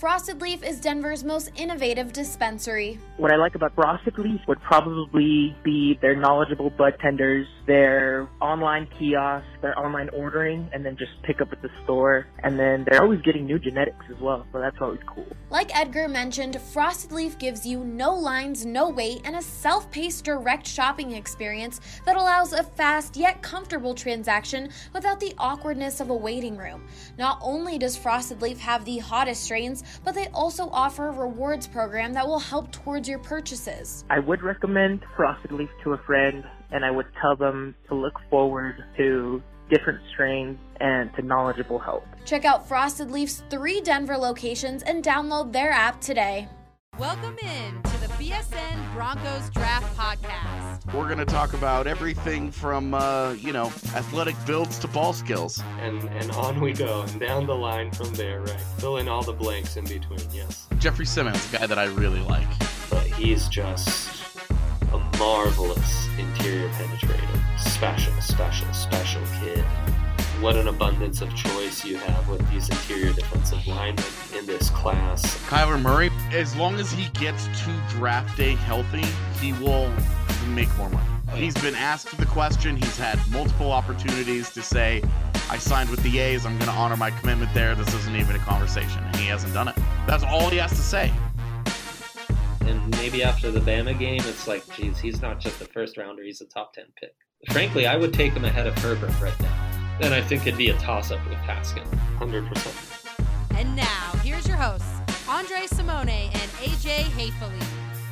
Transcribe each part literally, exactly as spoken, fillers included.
Frosted Leaf is Denver's most innovative dispensary. What I like about Frosted Leaf would probably be their knowledgeable bud tenders, their online kiosks, their online ordering, and then just pick up at the store. And then they're always getting new genetics as well, so that's always cool. Like Edgar mentioned, Frosted Leaf gives you no lines, no wait, and a self-paced direct shopping experience that allows a fast yet comfortable transaction without the awkwardness of a waiting room. Not only does Frosted Leaf have the hottest strains, but they also offer a rewards program that will help towards your purchases. I would recommend Frosted Leaf to a friend, and I would tell them to look forward to different strains and to knowledgeable help. Check out Frosted Leaf's three Denver locations and download their app today. Welcome in to the B S N Broncos Draft Podcast. We're going to talk about everything from, uh, you know, athletic builds to ball skills. And and on we go, and down the line from there, right? Fill in all the blanks in between, yes. Jeffrey Simmons, a guy that I really like. But he's just a marvelous interior penetrator. Special, special, special kid. What an abundance of choice you have with these interior defensive linemen in this class. Kyler Murray, as long as he gets to draft day healthy, he will make more money. He's been asked the question. He's had multiple opportunities to say, I signed with the A's. I'm going to honor my commitment there. This isn't even a conversation. And he hasn't done it. That's all he has to say. And maybe after the Bama game, it's like, geez, he's not just a first rounder. He's a top ten pick. Frankly, I would take him ahead of Herbert right now. And I think it'd be a toss-up with Paskin. one hundred percent. And now, here's your hosts, Andre Simone and A J Hayfley.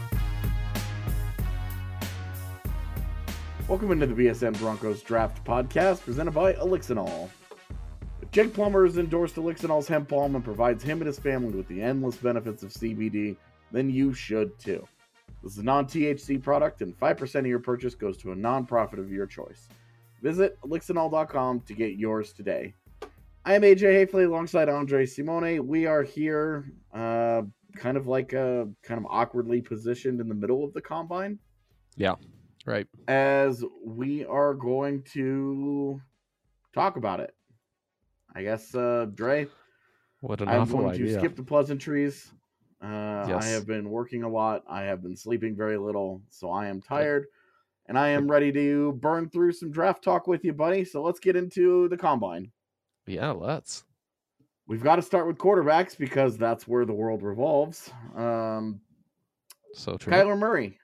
Welcome into the B S N Broncos Draft Podcast, presented by Elixinol. If Jake Plummer has endorsed Elixinol's hemp balm and provides him and his family with the endless benefits of C B D, then you should too. This is a non-T H C product, and five percent of your purchase goes to a nonprofit of your choice. Visit elixinol dot com to get yours today. I am A J Hayfley alongside Andre Simone. We are here uh, kind of like uh, kind of awkwardly positioned in the middle of the combine. Yeah, right. As we are going to talk about it. I guess, uh, Dre, what an I'm awful going idea. to skip the pleasantries. Uh, Yes. I have been working a lot. I have been sleeping very little, so I am tired. And I am ready to burn through some draft talk with you, buddy. So let's get into the combine. Yeah, let's. We've got to start with quarterbacks because that's where the world revolves. Um, So true. Kyler Murray.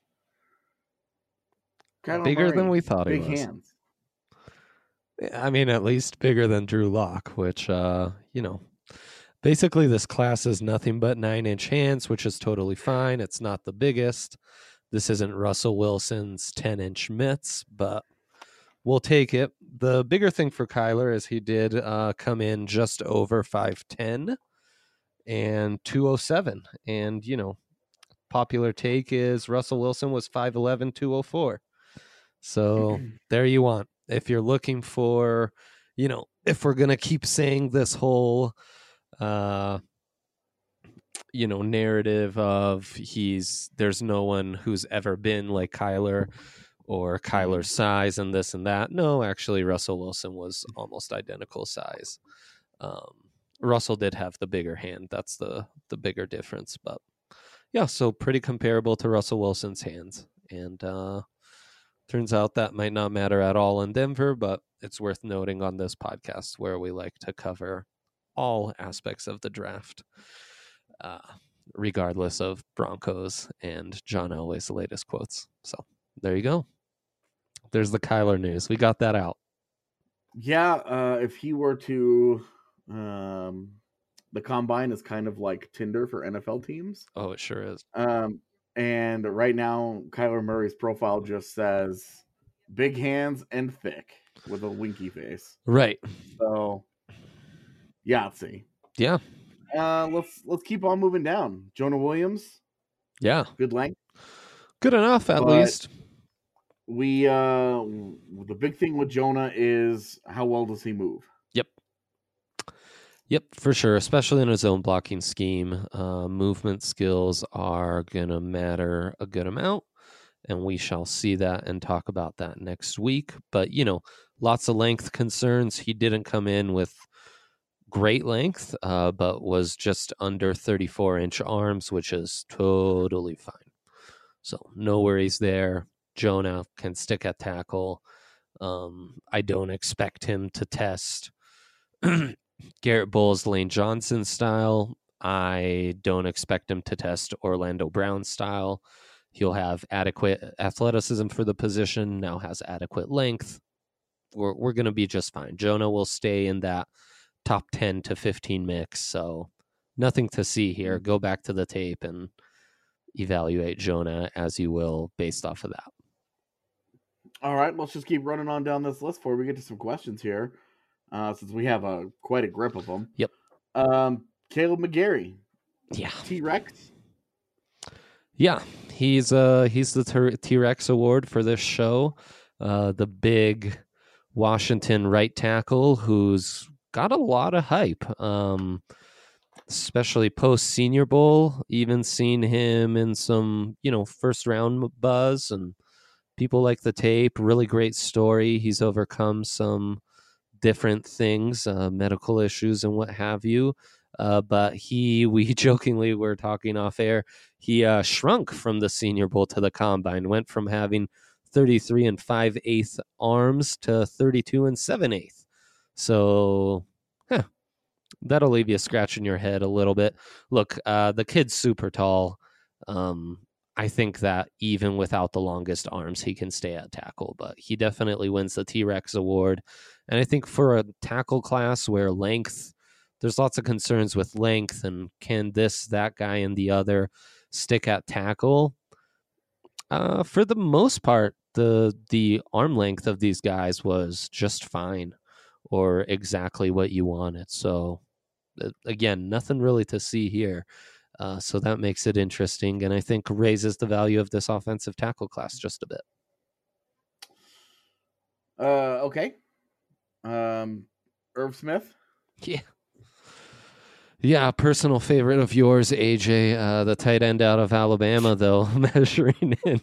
Kyler Bigger Murray, than we thought he big was. hands. I mean, at least bigger than Drew Lock, which, uh, you know, basically this class is nothing but nine-inch hands, which is totally fine. It's not the biggest. This isn't Russell Wilson's ten-inch mitts, but we'll take it. The bigger thing for Kyler is he did uh, come in just over five ten and two oh seven. And, you know, popular take is Russell Wilson was five eleven, two oh four. So there you want. If you're looking for, you know, if we're going to keep saying this whole, uh, you know, narrative of he's, there's no one who's ever been like Kyler or Kyler's size and this and that. No, actually, Russell Wilson was almost identical size. Um, Russell did have the bigger hand. That's the, the bigger difference. But yeah, so pretty comparable to Russell Wilson's hands. And uh, turns out that might not matter at all in Denver, but it's worth noting on this podcast where we like to cover all aspects of the draft. Uh, regardless of Broncos and John Elway's latest quotes. So there you go. There's the Kyler news. We got that out. Yeah, uh, if he were to, um, the combine is kind of like Tinder for N F L teams. Oh, it sure is. Um, and right now, Kyler Murray's profile just says big hands and thick with a winky face. Right. So, Yahtzee. Yeah. Uh, let's let's keep on moving down. Jonah Williams, Yeah. good length. Good enough, at But- least. We uh, the big thing with Jonah is how well does he move? Yep. Yep, for sure. Especially in a zone blocking scheme. Uh, movement skills are going to matter a good amount. And we shall see that and talk about that next week. But, you know, lots of length concerns. He didn't come in with great length, uh, but was just under thirty-four inch arms, which is totally fine. So no worries there. Jonah can stick at tackle. Um, I don't expect him to test Garrett Bowles, Lane Johnson style. I don't expect him to test Orlando Brown style. He'll have adequate athleticism for the position, now has adequate length. We're we're going to be just fine. Jonah will stay in that top ten to fifteen mix, so nothing to see here. Go back to the tape and evaluate Jonah as you will based off of that. All right, let's just keep running on down this list before we get to some questions here, uh, since we have a quite a grip of them. Yep. Um, Caleb McGarry. Yeah. T-Rex. Yeah, he's uh he's the T-Rex award for this show. Uh, the big Washington right tackle who's got a lot of hype, um, especially post Senior Bowl. Even seen him in some, you know, first round buzz, and people like the tape. Really great story. He's overcome some different things, uh, medical issues and what have you. Uh, but he, we jokingly were talking off air, he uh, shrunk from the Senior Bowl to the Combine, went from having thirty-three and five eighths arms to thirty-two and seven eighths. So, huh, that'll leave you scratching your head a little bit. Look, uh, the kid's super tall. Um, I think that even without the longest arms, he can stay at tackle, but he definitely wins the T-Rex award. And I think for a tackle class where length, there's lots of concerns with length and can this, that guy, and the other stick at tackle? Uh, for the most part, the the arm length of these guys was just fine or exactly what you wanted. So, again, nothing really to see here. Uh, so that makes it interesting, and I think raises the value of this offensive tackle class just a bit. Uh, okay. Um, Irv Smith. Yeah. Yeah, personal favorite of yours, A J, uh, the tight end out of Alabama, though, measuring in.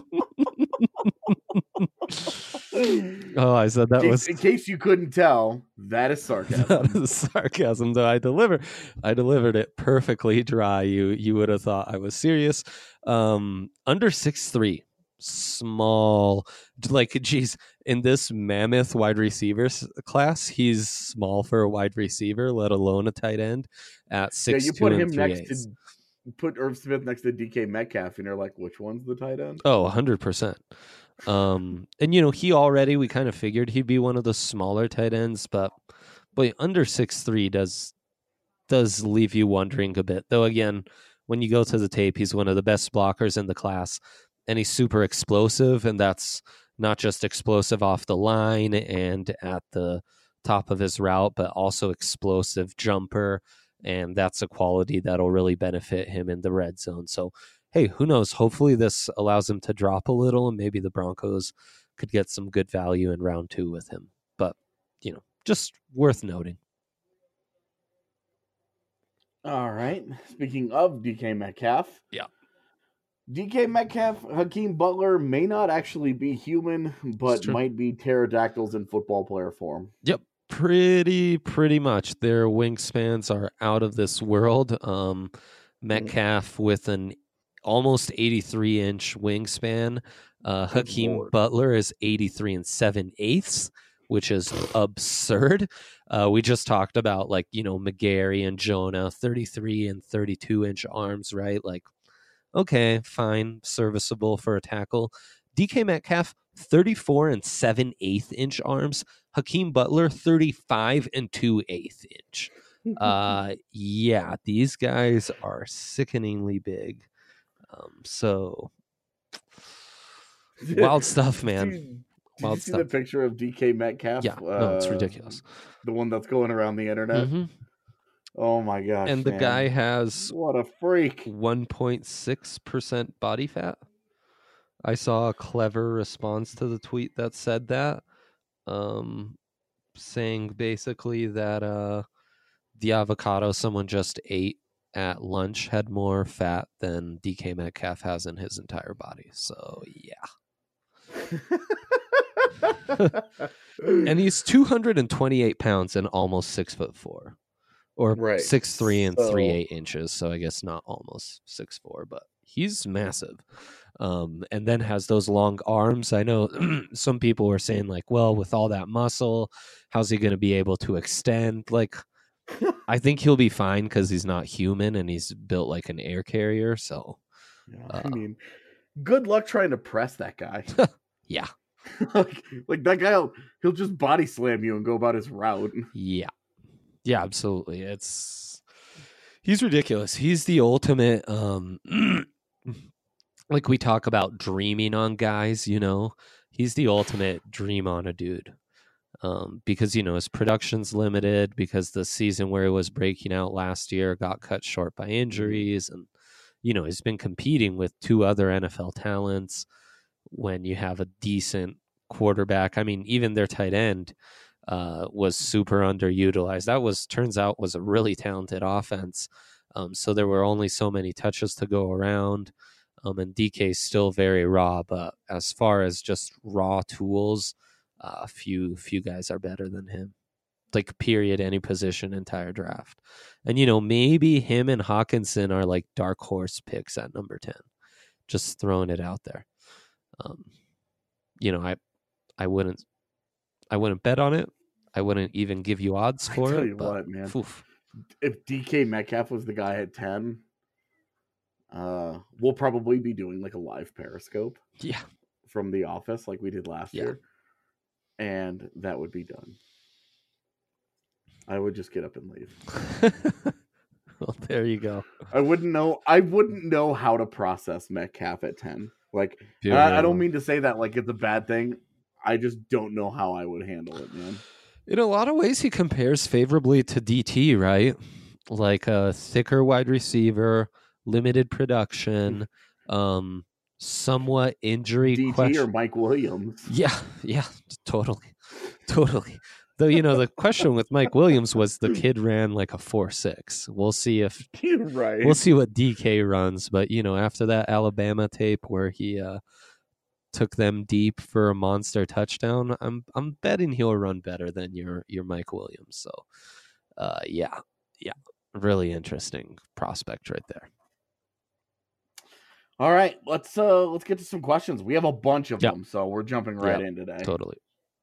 Oh, I said that in was... In case you couldn't tell, that is sarcasm. That is sarcasm, though. I deliver, I delivered it perfectly dry. You you would have thought I was serious. Um, under six three, small. Like, geez, in this mammoth wide receivers class, he's small for a wide receiver, let alone a tight end at six. Yeah, you put him next to put Irv Smith next to D K Metcalf, and you're like, which one's the tight end? Oh, one hundred percent. Um, and you know, he already, we kind of figured he'd be one of the smaller tight ends, but boy, under six three does does leave you wondering a bit. Though again, when you go to the tape, he's one of the best blockers in the class, and he's super explosive, and that's not just explosive off the line and at the top of his route, but also explosive jumper, and that's a quality that'll really benefit him in the red zone. So, hey, who knows? Hopefully this allows him to drop a little, and maybe the Broncos could get some good value in round two with him. But, you know, just worth noting. All right. Speaking of D K Metcalf. Yeah. D K Metcalf, Hakeem Butler may not actually be human, but might be pterodactyls in football player form. Yep. Pretty, pretty much. Their wingspans are out of this world. Um, Metcalf with an almost eighty-three inch wingspan. Uh, Hakeem Lord. Butler is eighty-three and seven eighths, which is absurd. Uh, we just talked about, like, you know, McGarry and Jonah, thirty-three and thirty-two inch arms, right? Like, okay, fine, serviceable for a tackle. D K Metcalf, thirty-four and seven eighth inch arms. Hakeem Butler, thirty-five and two eighth inch. Uh, yeah, these guys are sickeningly big. Um, so wild stuff, man. Did wild you see stuff. the picture of D K Metcalf? Yeah, no, it's uh, ridiculous. The one that's going around the internet. Mm-hmm. Oh my gosh! And the man. guy has what a freak. one point six percent body fat. I saw a clever response to the tweet that said that, um, saying basically that uh, the avocado someone just ate at lunch had more fat than D K Metcalf has in his entire body. So yeah. And he's two hundred twenty-eight pounds and almost six foot four. or Right. six three and three So- eight inches. So I guess not almost six four, but he's massive. Um, and then has those long arms. I know some people were saying like, well, with all that muscle, how's he going to be able to extend? Like, I think he'll be fine because he's not human and he's built like an air carrier. So Yeah, Uh, I mean, good luck trying to press that guy. yeah, like, like that guy, will, he'll just body slam you and go about his route. yeah, yeah, absolutely. It's he's ridiculous. He's the ultimate. Um, like we talk about dreaming on guys, you know, he's the ultimate dream on a dude. Um, because you know his production's limited because the season where he was breaking out last year got cut short by injuries, and you know he's been competing with two other N F L talents. When you have a decent quarterback, I mean, even their tight end uh, was super underutilized. That was turns out was a really talented offense. Um, so there were only so many touches to go around, um, and D K is still very raw. But as far as just raw tools, a uh, few few guys are better than him. Like period, any position, entire draft. And you know maybe him and Hawkinson are like dark horse picks at number ten. Just throwing it out there. Um, you know I I wouldn't I wouldn't bet on it. I wouldn't even give you odds I for tell it. you but, what, man. oof. If D K Metcalf was the guy at ten, uh, we'll probably be doing like a live Periscope Yeah. from the office like we did last Yeah. year. And that would be done. I would just get up and leave. Well, there you go. I wouldn't know. I wouldn't know how to process Metcalf at ten. Like, I, I Beautiful. don't mean to say that like it's a bad thing. I just don't know how I would handle it, man. In a lot of ways, he compares favorably to D T, right? Like a thicker wide receiver, limited production, um, somewhat injury D T question. or Mike Williams. Yeah, yeah, totally, totally. Though you know the question with Mike Williams was the kid ran like a four six. We'll see if You're right. we'll see what D K runs, but you know after that Alabama tape where he uh, took them deep for a monster touchdown, I'm I'm betting he'll run better than your your Mike Williams. So, uh, yeah, yeah, really interesting prospect right there. All right, let's uh let's get to some questions. We have a bunch of Yep. them, so we're jumping right Yep, in today. Totally.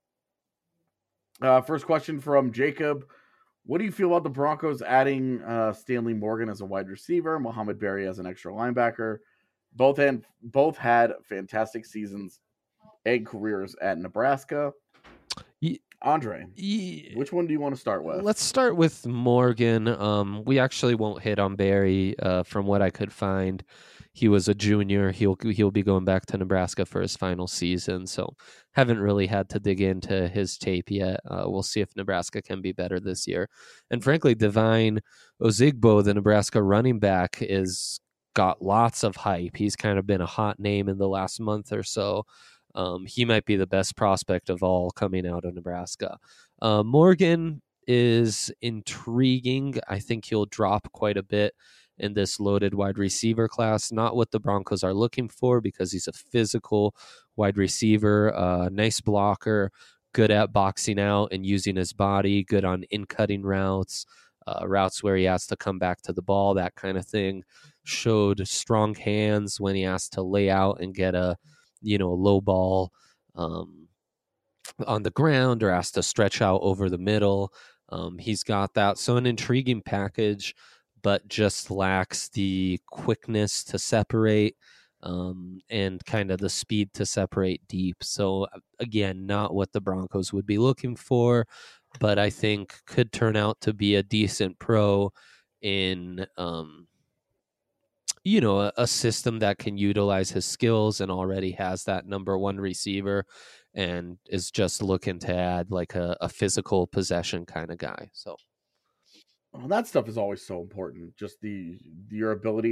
Uh, first question from Jacob. What do you feel about the Broncos adding uh, Stanley Morgan as a wide receiver, Mohamed Berry as an extra linebacker? Both had both had fantastic seasons and careers at Nebraska. Ye- Andre, Ye- which one do you want to start with? Let's start with Morgan. Um, we actually won't hit on Barry. Uh, from what I could find, he was a junior. He'll he'll be going back to Nebraska for his final season. So haven't really had to dig into his tape yet. Uh, we'll see if Nebraska can be better this year. And frankly, Divine Ozigbo, the Nebraska running back, is got lots of hype. He's kind of been a hot name in the last month or so. Um, he might be the best prospect of all coming out of Nebraska. Uh, Morgan is intriguing. I think he'll drop quite a bit in this loaded wide receiver class. Not what the Broncos are looking for because he's a physical wide receiver, uh, nice blocker, good at boxing out and using his body, good on in-cutting routes, uh, routes where he has to come back to the ball, that kind of thing. Showed strong hands when he has to lay out and get a you know, a low ball um, on the ground or has to stretch out over the middle. Um, he's got that. So an intriguing package, but just lacks the quickness to separate um, and kind of the speed to separate deep. So again, not what the Broncos would be looking for, but I think could turn out to be a decent pro in um, you know, a, a system that can utilize his skills and already has that number one receiver and is just looking to add like a, a physical possession kind of guy. So Well, that stuff is always so important. Just the your ability to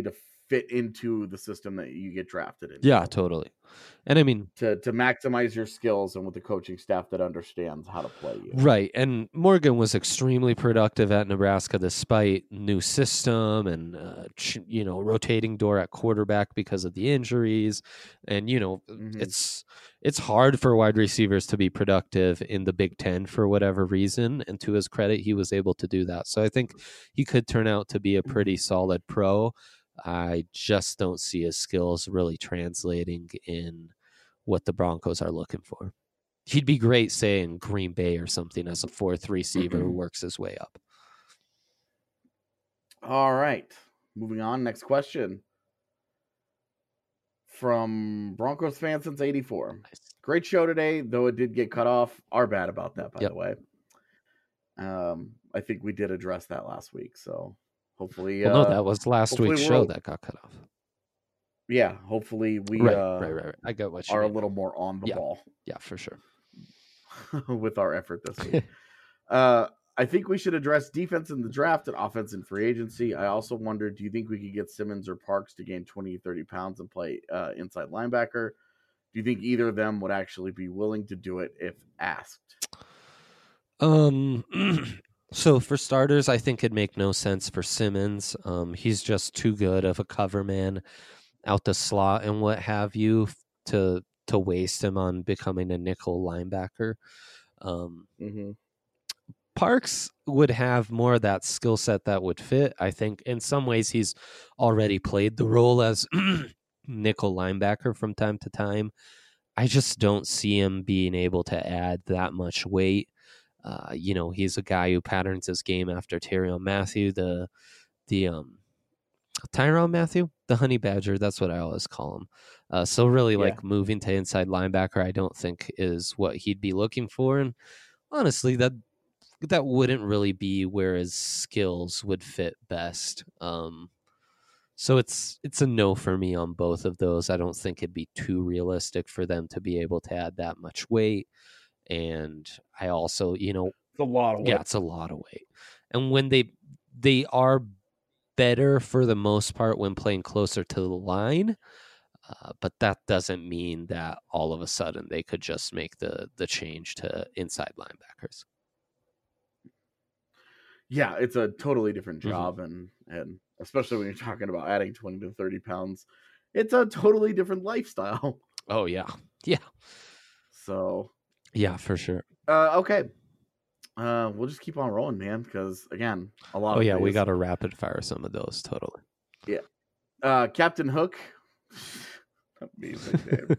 fit into the system that you get drafted into. Yeah, totally. And I mean, to to maximize your skills and with the coaching staff that understands how to play you. Right. And Morgan was extremely productive at Nebraska despite new system and, uh, ch- you know, rotating door at quarterback because of the injuries. And, you know, mm-hmm. it's it's hard for wide receivers to be productive in the Big Ten for whatever reason. And to his credit, he was able to do that. So I think he could turn out to be a pretty solid pro. I just don't see his skills really translating in what the Broncos are looking for. He'd be great, say, in Green Bay or something as a fourth receiver who works his way up. All right. Moving on. Next question. From Broncos fan since eighty-four. Nice. Great show today, though it did get cut off. Our bad about that, by yep. the way. Um, I think we did address that last week, so hopefully... Well, uh, no, that was last week's show that got cut off. Yeah, hopefully we right, uh, right, right, right. I got what you are mean. a little more on the yeah. ball. Yeah, for sure. With our effort this week. uh, I think we should address defense in the draft and offense in free agency. I also wonder, do you think we could get Simmons or Parks to gain twenty, thirty pounds and play uh, inside linebacker? Do you think either of them would actually be willing to do it if asked? Um. So for starters, I think it'd make no sense for Simmons. Um, he's just too good of a cover man out the slot and what have you to to waste him on becoming a nickel linebacker. Um, mm-hmm. Parks would have more of that skill set that would fit. I think in some ways he's already played the role as nickel linebacker from time to time. I just don't see him being able to add that much weight. Uh, you know, he's a guy who patterns his game after Tyrann Mathieu, the the um, Tyrann Mathieu, the Honey Badger. That's what I always call him. Uh, so really, yeah. like moving to inside linebacker, I don't think is what he'd be looking for. And honestly, that that wouldn't really be where his skills would fit best. Um, so it's it's a no for me on both of those. I don't think it'd be too realistic for them to be able to add that much weight. And I also, you know, it's a lot of weight. Yeah, it's a lot of weight. And when they they are better for the most part when playing closer to the line, uh, but that doesn't mean that all of a sudden they could just make the the change to inside linebackers. Yeah, it's a totally different job, mm-hmm. and and especially when you're talking about adding twenty to thirty pounds, it's a totally different lifestyle. Oh yeah, yeah. So. Yeah, for sure. Uh, okay. Uh, we'll just keep on rolling, man, because, again, a lot oh, of yeah, days. we got to rapid fire some of those, totally. Yeah. Uh, Captain Hook. Amazing name.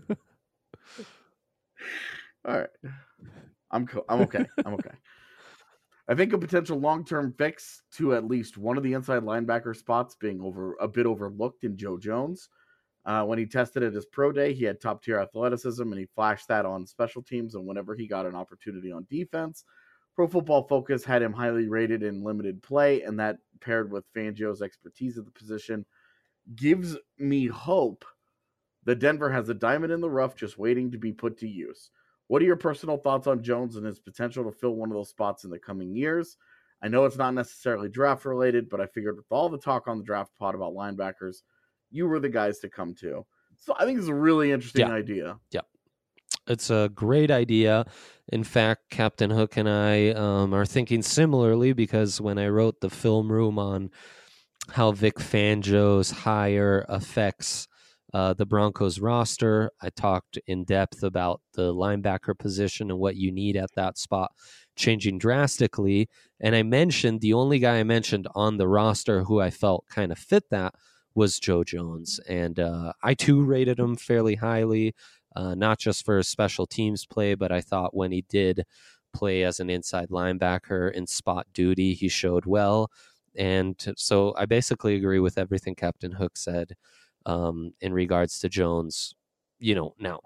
All right. I'm, co- I'm okay. I'm okay. I think a potential long-term fix to at least one of the inside linebacker spots being over a bit overlooked in Joe Jones. Uh, when he tested at his pro day, he had top-tier athleticism, and he flashed that on special teams and whenever he got an opportunity on defense. Pro Football Focus had him highly rated in limited play, and that paired with Fangio's expertise at the position gives me hope that Denver has a diamond in the rough just waiting to be put to use. What are your personal thoughts on Jones and his potential to fill one of those spots in the coming years? I know it's not necessarily draft-related, but I figured with all the talk on the draft pod about linebackers, you were the guys to come to. So I think it's a really interesting yeah. idea. Yeah. It's a great idea. In fact, Captain Hook and I um, are thinking similarly because when I wrote the film room on how Vic Fangio's hire affects uh, the Broncos roster, I talked in depth about the linebacker position and what you need at that spot changing drastically. And I mentioned the only guy I mentioned on the roster who I felt kind of fit that was Joe Jones. And uh, I too rated him fairly highly, uh, not just for his special teams play, but I thought when he did play as an inside linebacker in spot duty, he showed well. And so I basically agree with everything Captain Hook said um, in regards to Jones. You know, now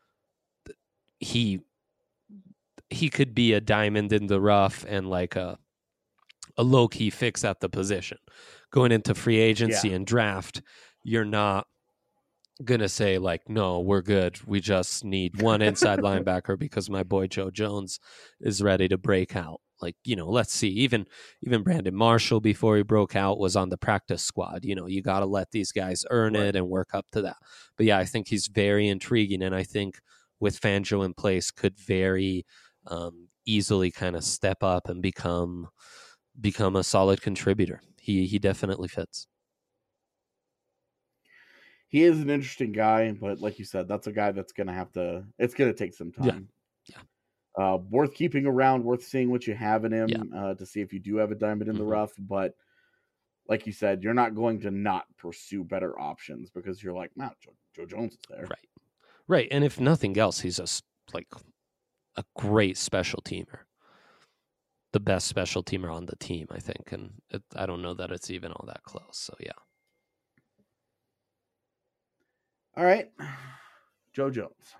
he he could be a diamond in the rough and like a a low-key fix at the position. Going into free agency yeah. and draft, you're not going to say, like, no, we're good. We just need one inside linebacker because my boy Joe Jones is ready to break out. Like, you know, let's see, even even Brandon Marshall before he broke out was on the practice squad. You know, you got to let these guys earn Right. it and work up to that. But yeah, I think he's very intriguing, and I think with Fangio in place could very um, easily kind of step up and become become a solid contributor. He he definitely fits. He is an interesting guy, but like you said, that's a guy that's going to have to, it's going to take some time. Yeah. Uh, worth keeping around, worth seeing what you have in him Yeah. uh, to see if you do have a diamond in the Mhm. rough. But like you said, you're not going to not pursue better options because you're like, wow, Joe, Joe Jones is there. Right. Right. And if nothing else, he's a, s- like a great special teamer. The best special teamer on the team, I think. And it, I don't know that it's even all that close. So, yeah. All right, Joe Jones.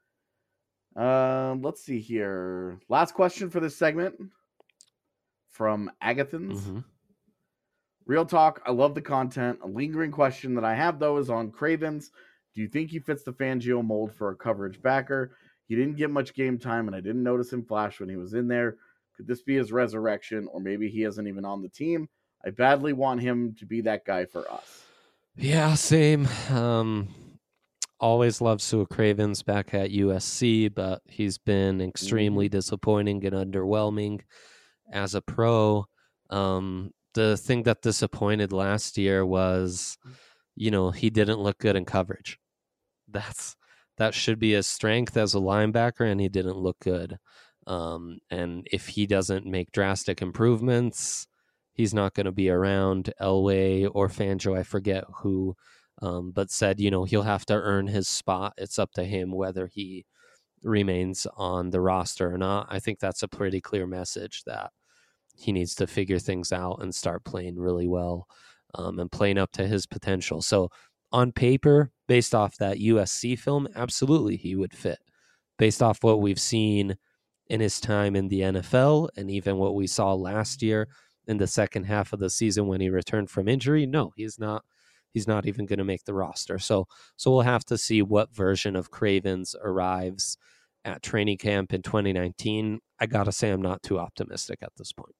Um, let's see here. Last question for this segment from Agathons. Mhm. Real talk. I love the content. A lingering question that I have, though, is on Cravens. Do you think he fits the Fangio mold for a coverage backer? He didn't get much game time, and I didn't notice him flash when he was in there. Could this be his resurrection, or maybe he isn't even on the team? I badly want him to be that guy for us. Yeah, same. Um, always loved Sue Cravens back at U S C, but he's been extremely disappointing and underwhelming as a pro. Um, the thing that disappointed last year was, you know, he didn't look good in coverage. That's that should be his strength as a linebacker, and he didn't look good. Um, and if he doesn't make drastic improvements, he's not going to be around. Elway or Fangio, I forget who, um, but said, you know, he'll have to earn his spot. It's up to him whether he remains on the roster or not. I think that's a pretty clear message that he needs to figure things out and start playing really well um, and playing up to his potential. So on paper, based off that U S C film, absolutely he would fit. Based off what we've seen in his time in the N F L and even what we saw last year in the second half of the season when he returned from injury, no, he's not. He's not even going to make the roster. So, so we'll have to see what version of Cravens arrives at training camp in twenty nineteen. I gotta say, I'm not too optimistic at this point.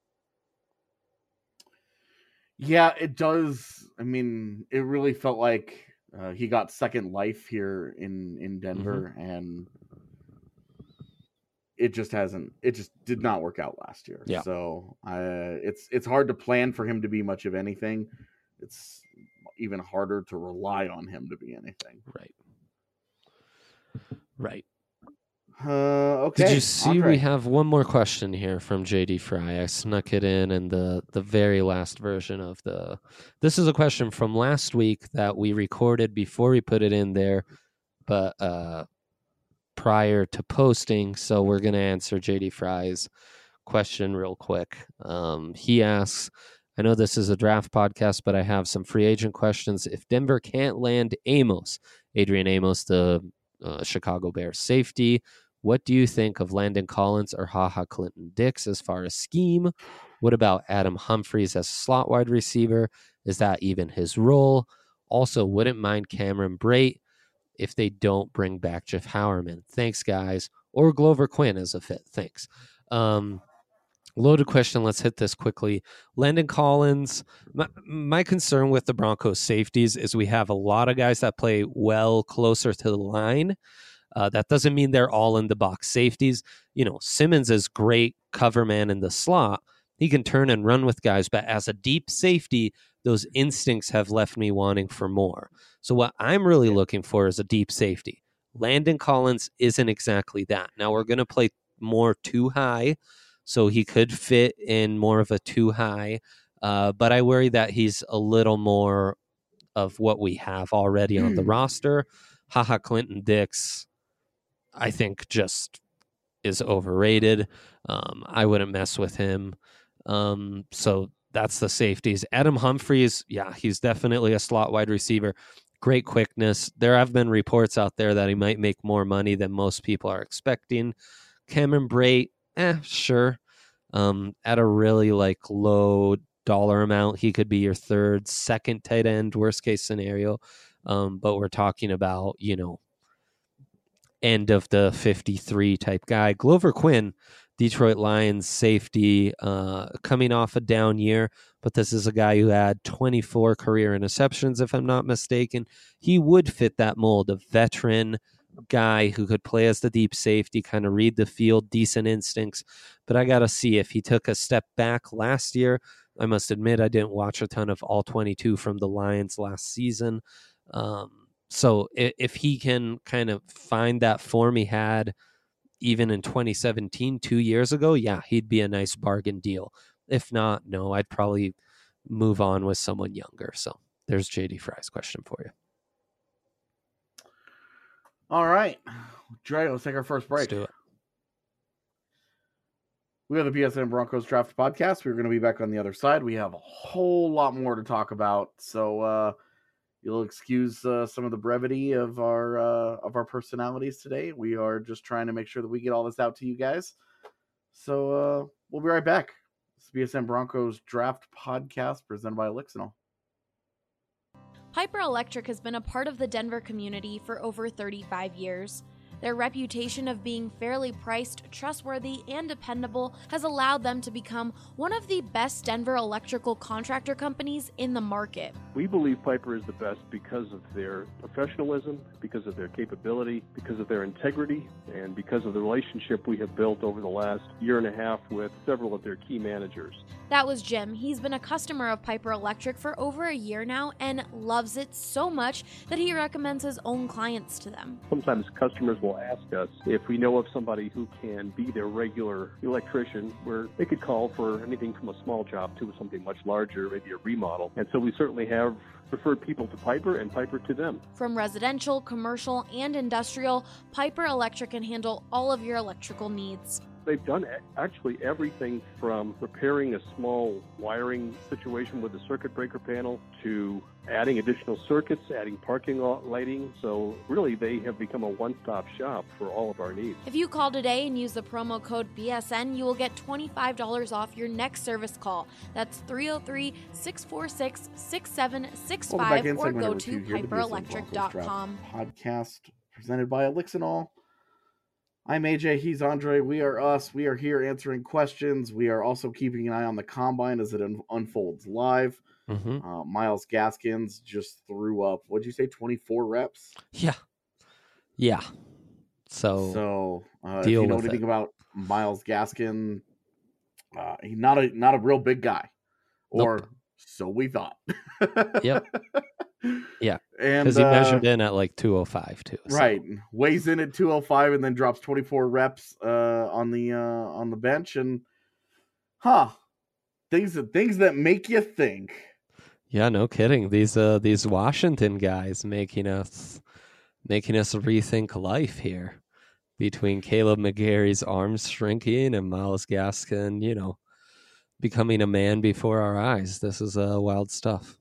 Yeah, it does. I mean, it really felt like uh, he got second life here in in Denver, mm-hmm. and it just hasn't. It just did not work out last year. Yeah. So uh, it's it's hard to plan for him to be much of anything. It's even harder to rely on him to be anything. Right. Right. Uh, okay. Did you see Andre. We have one more question here from J D Fry? I snuck it in in the, the very last version of the... This is a question from last week that we recorded before we put it in there, but uh, prior to posting, so we're going to answer J D Fry's question real quick. Um, he asks, I know this is a draft podcast, but I have some free agent questions. If Denver can't land Amos, Adrian Amos, the uh, Chicago Bears safety, what do you think of Landon Collins or HaHa Clinton Dix as far as scheme? What about Adam Humphries as a slot wide receiver? Is that even his role? Also, wouldn't mind Cameron Brate if they don't bring back Jeff Howerman. Thanks, guys. Or Glover Quinn as a fit. Thanks. Um, loaded question. Let's hit this quickly. Landon Collins, my, my concern with the Broncos safeties is we have a lot of guys that play well closer to the line. Uh, that doesn't mean they're all in the box safeties. You know, Simmons is great cover man in the slot. He can turn and run with guys, but as a deep safety, those instincts have left me wanting for more. So what I'm really looking for is a deep safety. Landon Collins isn't exactly that. Now we're going to play more too high, so he could fit in more of a too high. Uh, but I worry that he's a little more of what we have already on the roster. HaHa Clinton Dix, I think, just is overrated. Um, I wouldn't mess with him. Um, so that's the safeties. Adam Humphries, yeah, he's definitely a slot wide receiver. Great quickness. There have been reports out there that he might make more money than most people are expecting. Cameron Brate, eh, sure. Um, at a really like low dollar amount, he could be your third, second tight end, worst case scenario. Um, but we're talking about, you know, end of the fifty-three type guy. Glover Quinn, Detroit Lions safety, uh, coming off a down year, but this is a guy who had twenty-four career interceptions, if I'm not mistaken. He would fit that mold, a veteran guy who could play as the deep safety, kind of read the field, decent instincts. But I got to see if he took a step back last year. I must admit, I didn't watch a ton of all twenty-two from the Lions last season. Um, so if, if he can kind of find that form he had even in twenty seventeen, two years ago, yeah, he'd be a nice bargain deal. If not, no, I'd probably move on with someone younger. So there's J D Fry's question for you. All right. Dre, let's take our first break. Let's do it. We have the B S N Broncos Draft Podcast. We're going to be back on the other side. We have a whole lot more to talk about. So uh, you'll excuse uh, some of the brevity of our uh, of our personalities today. We are just trying to make sure that we get all this out to you guys. So uh, we'll be right back. It's the B S N Broncos Draft Podcast presented by Elixinol. Piper Electric has been a part of the Denver community for over thirty-five years. Their reputation of being fairly priced, trustworthy, and dependable has allowed them to become one of the best Denver electrical contractor companies in the market. We believe Piper is the best because of their professionalism, because of their capability, because of their integrity, and because of the relationship we have built over the last year and a half with several of their key managers. That was Jim. He's been a customer of Piper Electric for over a year now and loves it so much that he recommends his own clients to them. Sometimes customers will ask us if we know of somebody who can be their regular electrician, where they could call for anything from a small job to something much larger, maybe a remodel. And so we certainly have referred people to Piper and Piper to them. From residential, commercial, and industrial, Piper Electric can handle all of your electrical needs. They've done actually everything from repairing a small wiring situation with a circuit breaker panel to adding additional circuits, adding parking lot lighting. So really, they have become a one-stop shop for all of our needs. If you call today and use the promo code B S N, you will get twenty-five dollars off your next service call. That's three oh three, six four six, six seven six five or go to piper electric dot com. Podcast presented by Elixinol. I'm A J, he's Andre, we are us, we are here answering questions, we are also keeping an eye on the Combine as it un- unfolds live. Mm-hmm. Uh, Myles Gaskins just threw up, what'd you say, twenty-four reps? Yeah. Yeah. So, so uh, if deal you know with anything it. about Myles Gaskin, uh, he's not a, not a real big guy, or Nope. so we thought. Yep. Yeah, and because he uh, measured in at like two oh five too. so. Right, weighs in at two oh five and then drops twenty-four reps uh, on the uh, on the bench, and huh, things that things that make you think. Yeah, no kidding. These uh these Washington guys making us making us rethink life here. Between Caleb McGarry's arms shrinking and Myles Gaskin, you know, becoming a man before our eyes. This is uh, wild stuff.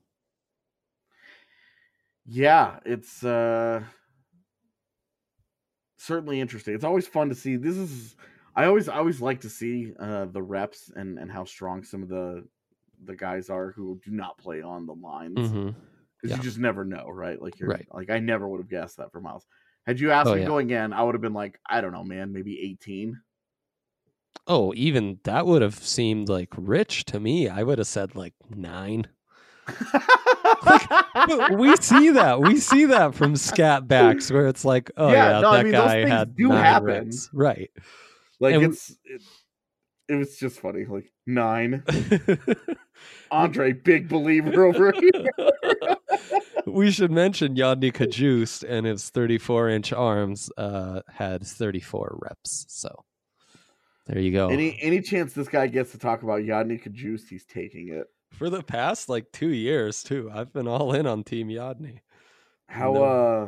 Yeah, it's uh, certainly interesting. It's always fun to see. This is I always I always like to see uh, the reps and, and how strong some of the the guys are who do not play on the lines, because Mm-hmm. Yeah. you just never know, right? Like you're Right. like I never would have guessed that for Myles. Had you asked Oh, me yeah. going in, I would have been like, I don't know, man, maybe eighteen. Oh, even that would have seemed like rich to me. I would have said like nine. But we see that. We see that from scat backs where it's like, oh Yeah, yeah, no, I that mean, those guy things had do nine happen. reps. Right. Like And- it's it, it was just funny. Like nine. Andre, big believer over here. We should mention Yodny Kajust and his thirty-four inch arms uh, had thirty-four reps. So there you go. Any any chance this guy gets to talk about Yodny Kajust, he's taking it. For the past like two years too, I've been all in on Team Yodny. How No. uh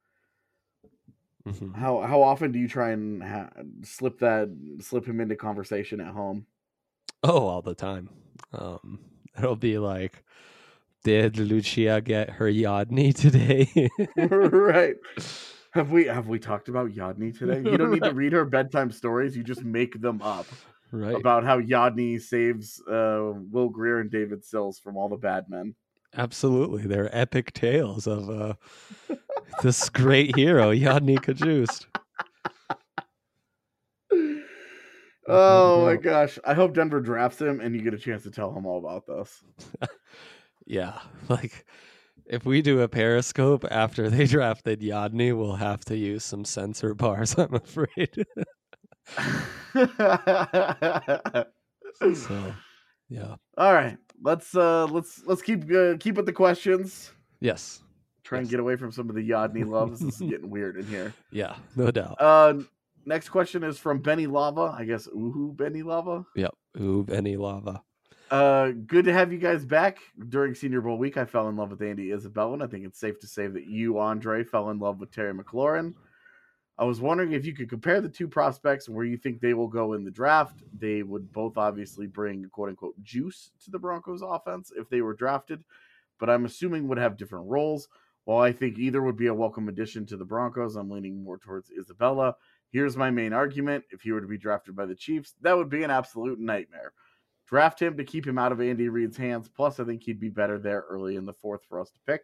Mhm. how how often do you try and ha- slip that slip him into conversation at home? Oh, all the time. Um, it'll be like, did Lucia get her Yodny today? Right. Have we have we talked about Yodny today? You don't need to read her bedtime stories. You just make them up Right. about how Yodny saves uh, Will Greer and David Sills from all the bad men. Absolutely. They're epic tales of uh, this great hero, Yodny Kajust. Oh my gosh. I hope Denver drafts him and you get a chance to tell him all about this. Yeah. Like, if we do a Periscope after they drafted Yodny, we'll have to use some censor bars, I'm afraid. So, yeah. All right. Let's uh let's let's keep uh, keep with the questions. Yes. Try and Yes. get away from some of the Yodny loves. This is getting weird in here. Yeah, no doubt. Uh next question is from Benny Lava. I guess Uhu Benny Lava. Yep. Ooh, Benny Lava. Uh, good to have you guys back. During Senior Bowl week, I fell in love with Andy Isabella, and I think it's safe to say that you, Andre, fell in love with Terry McLaurin. I was wondering if you could compare the two prospects and where you think they will go in the draft. They would both obviously bring quote-unquote juice to the Broncos offense if they were drafted, but I'm assuming would have different roles. While I think either would be a welcome addition to the Broncos, I'm leaning more towards Isabella. Here's my main argument. If he were to be drafted by the Chiefs, that would be an absolute nightmare. Draft him to keep him out of Andy Reid's hands. Plus, I think he'd be better there early in the fourth for us to pick.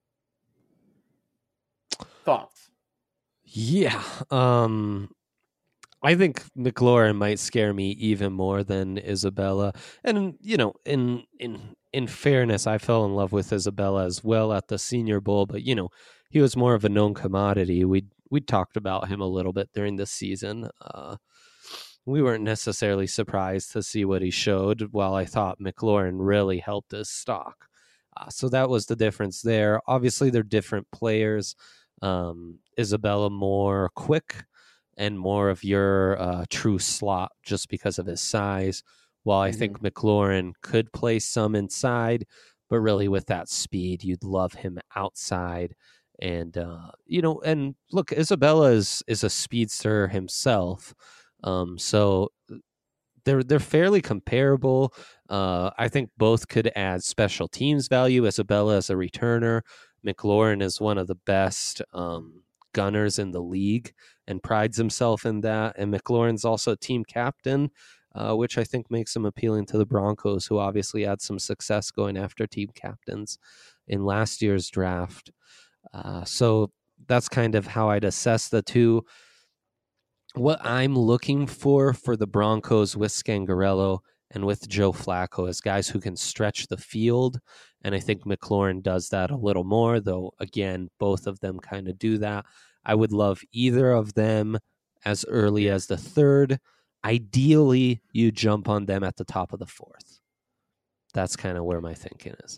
Thoughts? Yeah. Um, I think McLaurin might scare me even more than Isabella. And, you know, in in in fairness, I fell in love with Isabella as well at the Senior Bowl, but, you know, he was more of a known commodity. We we talked about him a little bit during the season. Uh We weren't necessarily surprised to see what he showed, while I thought McLaurin really helped his stock. Uh, so that was the difference there. Obviously, they're different players. Um, Isabella more quick and more of your uh, true slot just because of his size, while I mm-hmm. think McLaurin could play some inside, but really with that speed, you'd love him outside. And, uh, you know, and look, Isabella is, is a speedster himself. Um, so they're they're fairly comparable. Uh, I think both could add special teams value. Isabella as a returner, McLaurin is one of the best um, gunners in the league and prides himself in that. And McLaurin's also a team captain, uh, which I think makes him appealing to the Broncos, who obviously had some success going after team captains in last year's draft. Uh, so that's kind of how I'd assess the two. What I'm looking for for the Broncos with Scangarello and with Joe Flacco is guys who can stretch the field, and I think McLaurin does that a little more, though, again, both of them kind of do that. I would love either of them as early as the third. Ideally, you jump on them at the top of the fourth. That's kind of where my thinking is.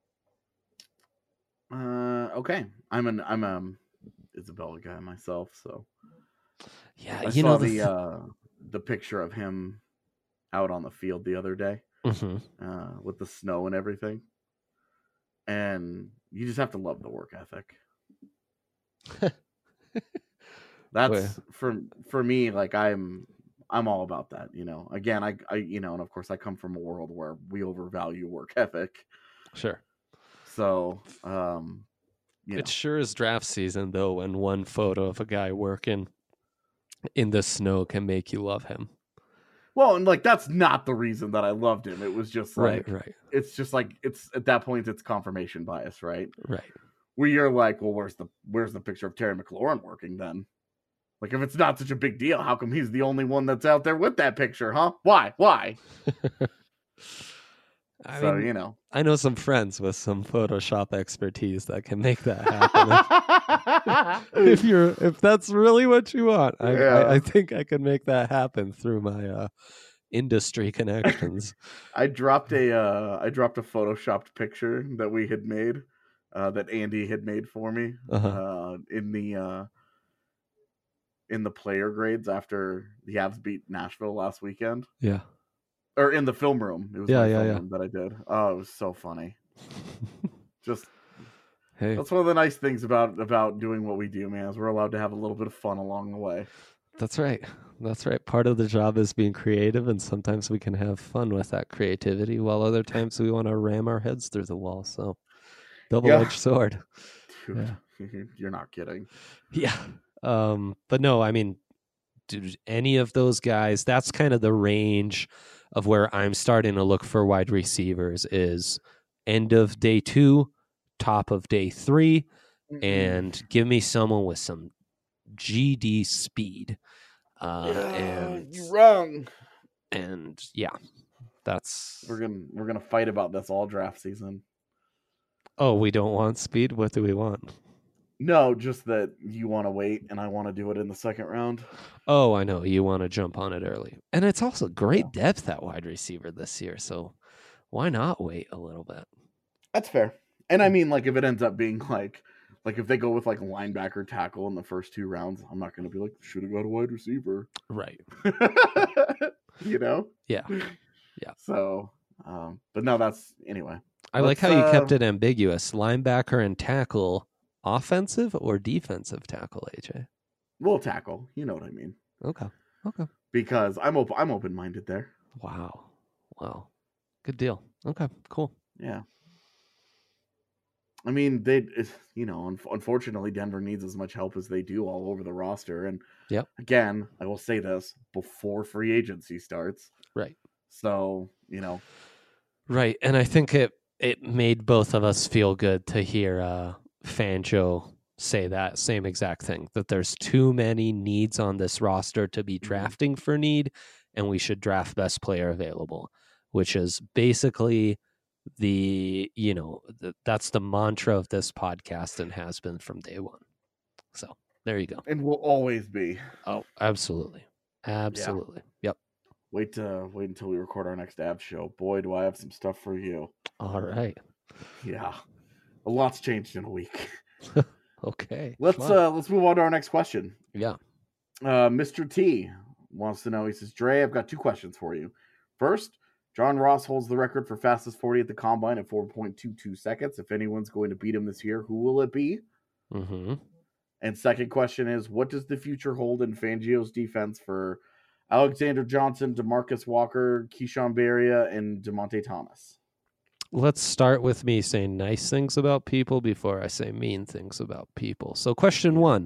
Uh, okay. I'm an I'm a Isabella guy myself, so... Yeah, I you saw know the the, th- uh, the picture of him out on the field the other day mm-hmm. uh, with the snow and everything, and you just have to love the work ethic. That's Boy. for for me. Like I'm I'm all about that. You know, again, I I you know, and of course, I come from a world where we overvalue work ethic. Sure. So, um, you it know. sure is draft season though, when one photo of a guy working in the snow can make you love him. Well, and like that's not the reason that I loved him. It was just like right, right. It's just like it's at that point it's confirmation bias, right? Right. Where you're like, well, where's the where's the picture of Terry McLaurin working then? Like if it's not such a big deal, how come he's the only one that's out there with that picture, huh? Why? Why? I so, mean, you know. I know some friends with some Photoshop expertise that can make that happen. if, if you're, if that's really what you want, I, yeah. I, I think I can make that happen through my uh, industry connections. I dropped a, uh, I dropped a Photoshopped picture that we had made, uh, that Andy had made for me, uh-huh. uh, in the, uh, in the player grades after the Avs beat Nashville last weekend. Yeah. Or in the film room. It was yeah, my yeah, film yeah. room that I did. Oh, it was so funny. Just hey, that's one of the nice things about about doing what we do, man, is we're allowed to have a little bit of fun along the way. That's right. That's right. Part of the job is being creative, and sometimes we can have fun with that creativity, while other times we want to ram our heads through the wall. So, double-edged yeah. sword. Dude, yeah. You're not kidding. Yeah. Um, but no, I mean, dude, any of those guys, that's kind of the range of where I'm starting to look for wide receivers is end of day two, top of day three, mm-hmm. and give me someone with some G D speed. Uh, yeah, and you're wrong. And yeah, that's We're gonna we're gonna fight about this all draft season. oh, we don't want speed. What do we want? No, just that you want to wait and I want to do it in the second round. Oh, I know you want to jump on it early, and it's also great depth at wide receiver this year. So why not wait a little bit? That's fair. And I mean, like, if it ends up being like, like if they go with like a linebacker tackle in the first two rounds, I'm not going to be like, should have got a wide receiver. Right. You know? Yeah. Yeah. So, um, but no, that's anyway. I like Let's, how you uh, kept it ambiguous. Linebacker and tackle, offensive or defensive tackle, A J? We'll tackle. You know what I mean? Okay. Okay. Because I'm open. I'm open minded there. Wow. Wow. Good deal. Okay. Cool. Yeah. I mean, they, you know, un- unfortunately, Denver needs as much help as they do all over the roster. And Yep. again, I will say this before free agency starts. Right. So, you know, Right. And I think it it made both of us feel good to hear uh, Fangio say that same exact thing, that there's too many needs on this roster to be drafting for need, and we should draft best player available, which is basically the, you know, the, that's the mantra of this podcast and has been from day one. So there you go. and will always be. Oh, absolutely. Absolutely. Yep. Wait to wait until we record our next Ab show. Boy, do I have some stuff for you. All right. Yeah, a lot's changed in a week. Okay. Let's fun. uh let's move on to our next question. Yeah. Uh, Mister T wants to know. He says, "Dre, I've got two questions for you. First, John Ross holds the record for fastest forty at the combine at four point two two seconds. If anyone's going to beat him this year, who will it be? Mm-hmm. And second question is, what does the future hold in Fangio's defense for Alexander Johnson, DeMarcus Walker, Keyshawn Barria, and DeMonte Thomas?" Let's start with me saying nice things about people before I say mean things about people. So question one,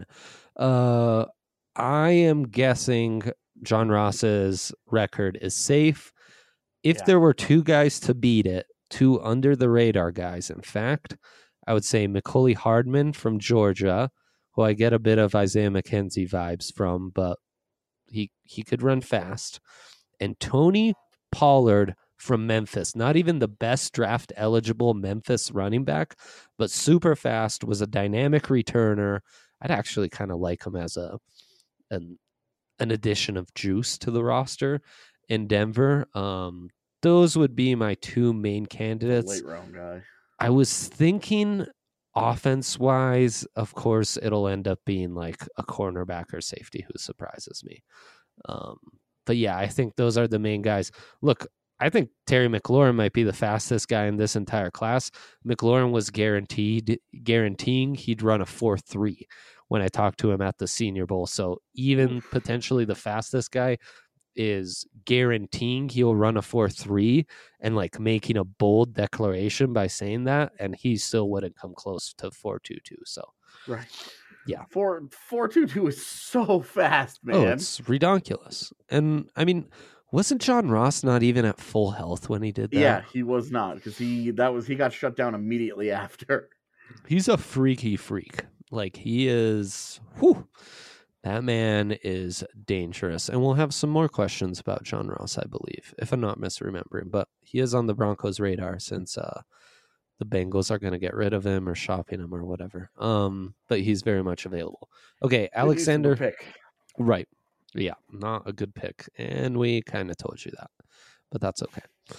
uh, I am guessing John Ross's record is safe. If Yeah. there were two guys to beat it, two under the radar guys, in fact, I would say Mecole Hardman from Georgia, who I get a bit of Isaiah McKenzie vibes from, but he he could run fast, and Tony Pollard from Memphis. Not even the best draft eligible Memphis running back, but super fast, was a dynamic returner. I'd actually kind of like him as a an an addition of juice to the roster in Denver. Um, those would be my two main candidates. Late round guy. I was thinking offense wise, of course, it'll end up being like a cornerback or safety who surprises me. Um, but yeah, I think those are the main guys. Look, I think Terry McLaurin might be the fastest guy in this entire class. McLaurin was guaranteed, guaranteeing he'd run a four three when I talked to him at the Senior Bowl. So even potentially the fastest guy is guaranteeing he'll run a four three and like making a bold declaration by saying that, and he still wouldn't come close to four two two. So Right. Yeah. Four four two two is so fast, man. oh, it's redonkulous. And I mean, wasn't John Ross not even at full health when he did that? Yeah, he was not, because he that was he got shut down immediately after. He's a freaky freak. Like he is, whew, that man is dangerous. And we'll have some more questions about John Ross, I believe, if I'm not misremembering. But he is on the Broncos' radar since uh, the Bengals are going to get rid of him or shopping him or whatever. Um, but he's very much available. Okay, Alexander. Pick. Right. Yeah, not a good pick. And we kind of told you that, but that's okay.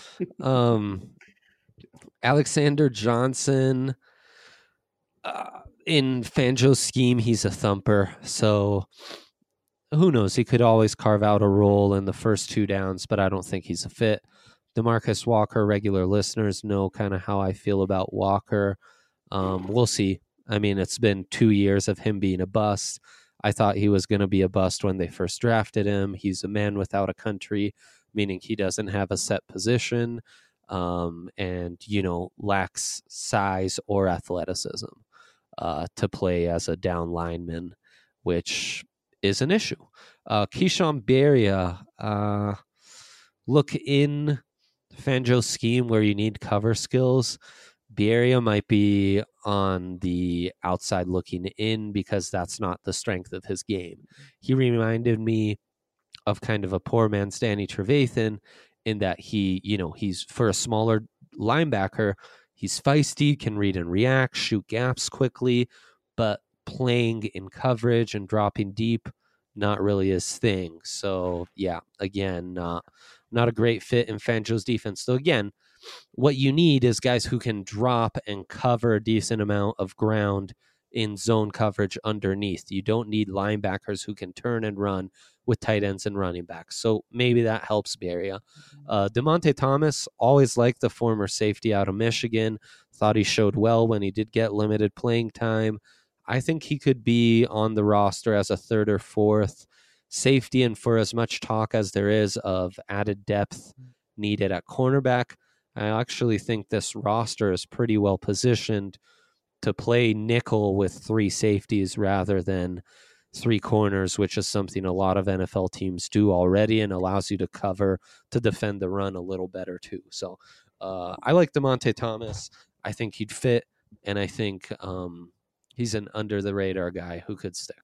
um, Alexander Johnson, uh, in Fangio's scheme, he's a thumper. So who knows? He could always carve out a role in the first two downs, but I don't think he's a fit. DeMarcus Walker, regular listeners know kind of how I feel about Walker. Um, we'll see. I mean, it's been two years of him being a bust. I thought he was going to be a bust when they first drafted him. He's a man without a country, meaning he doesn't have a set position, um, and, you know, lacks size or athleticism uh, to play as a down lineman, which is an issue. Uh, Keyshawn Barria, uh, look, in Fangio's scheme where you need cover skills, Barria might be on the outside looking in because that's not the strength of his game. He reminded me of kind of a poor man's Danny Trevathan in that he, you know, he's for a smaller linebacker, he's feisty, can read and react, shoot gaps quickly, but playing in coverage and dropping deep, not really his thing. So yeah, again, not not a great fit in Fangio's defense. So again, what you need is guys who can drop and cover a decent amount of ground in zone coverage underneath. You don't need linebackers who can turn and run with tight ends and running backs. So maybe that helps Beria. Uh, DeMonte Thomas, always liked the former safety out of Michigan. Thought he showed well when he did get limited playing time. I think he could be on the roster as a third or fourth safety. And for as much talk as there is of added depth needed at cornerback, I actually think this roster is pretty well positioned to play nickel with three safeties rather than three corners, which is something a lot of N F L teams do already and allows you to cover, to defend the run a little better too. So uh, I like DeMonte Thomas. I think he'd fit, and I think um, he's an under-the-radar guy who could stick.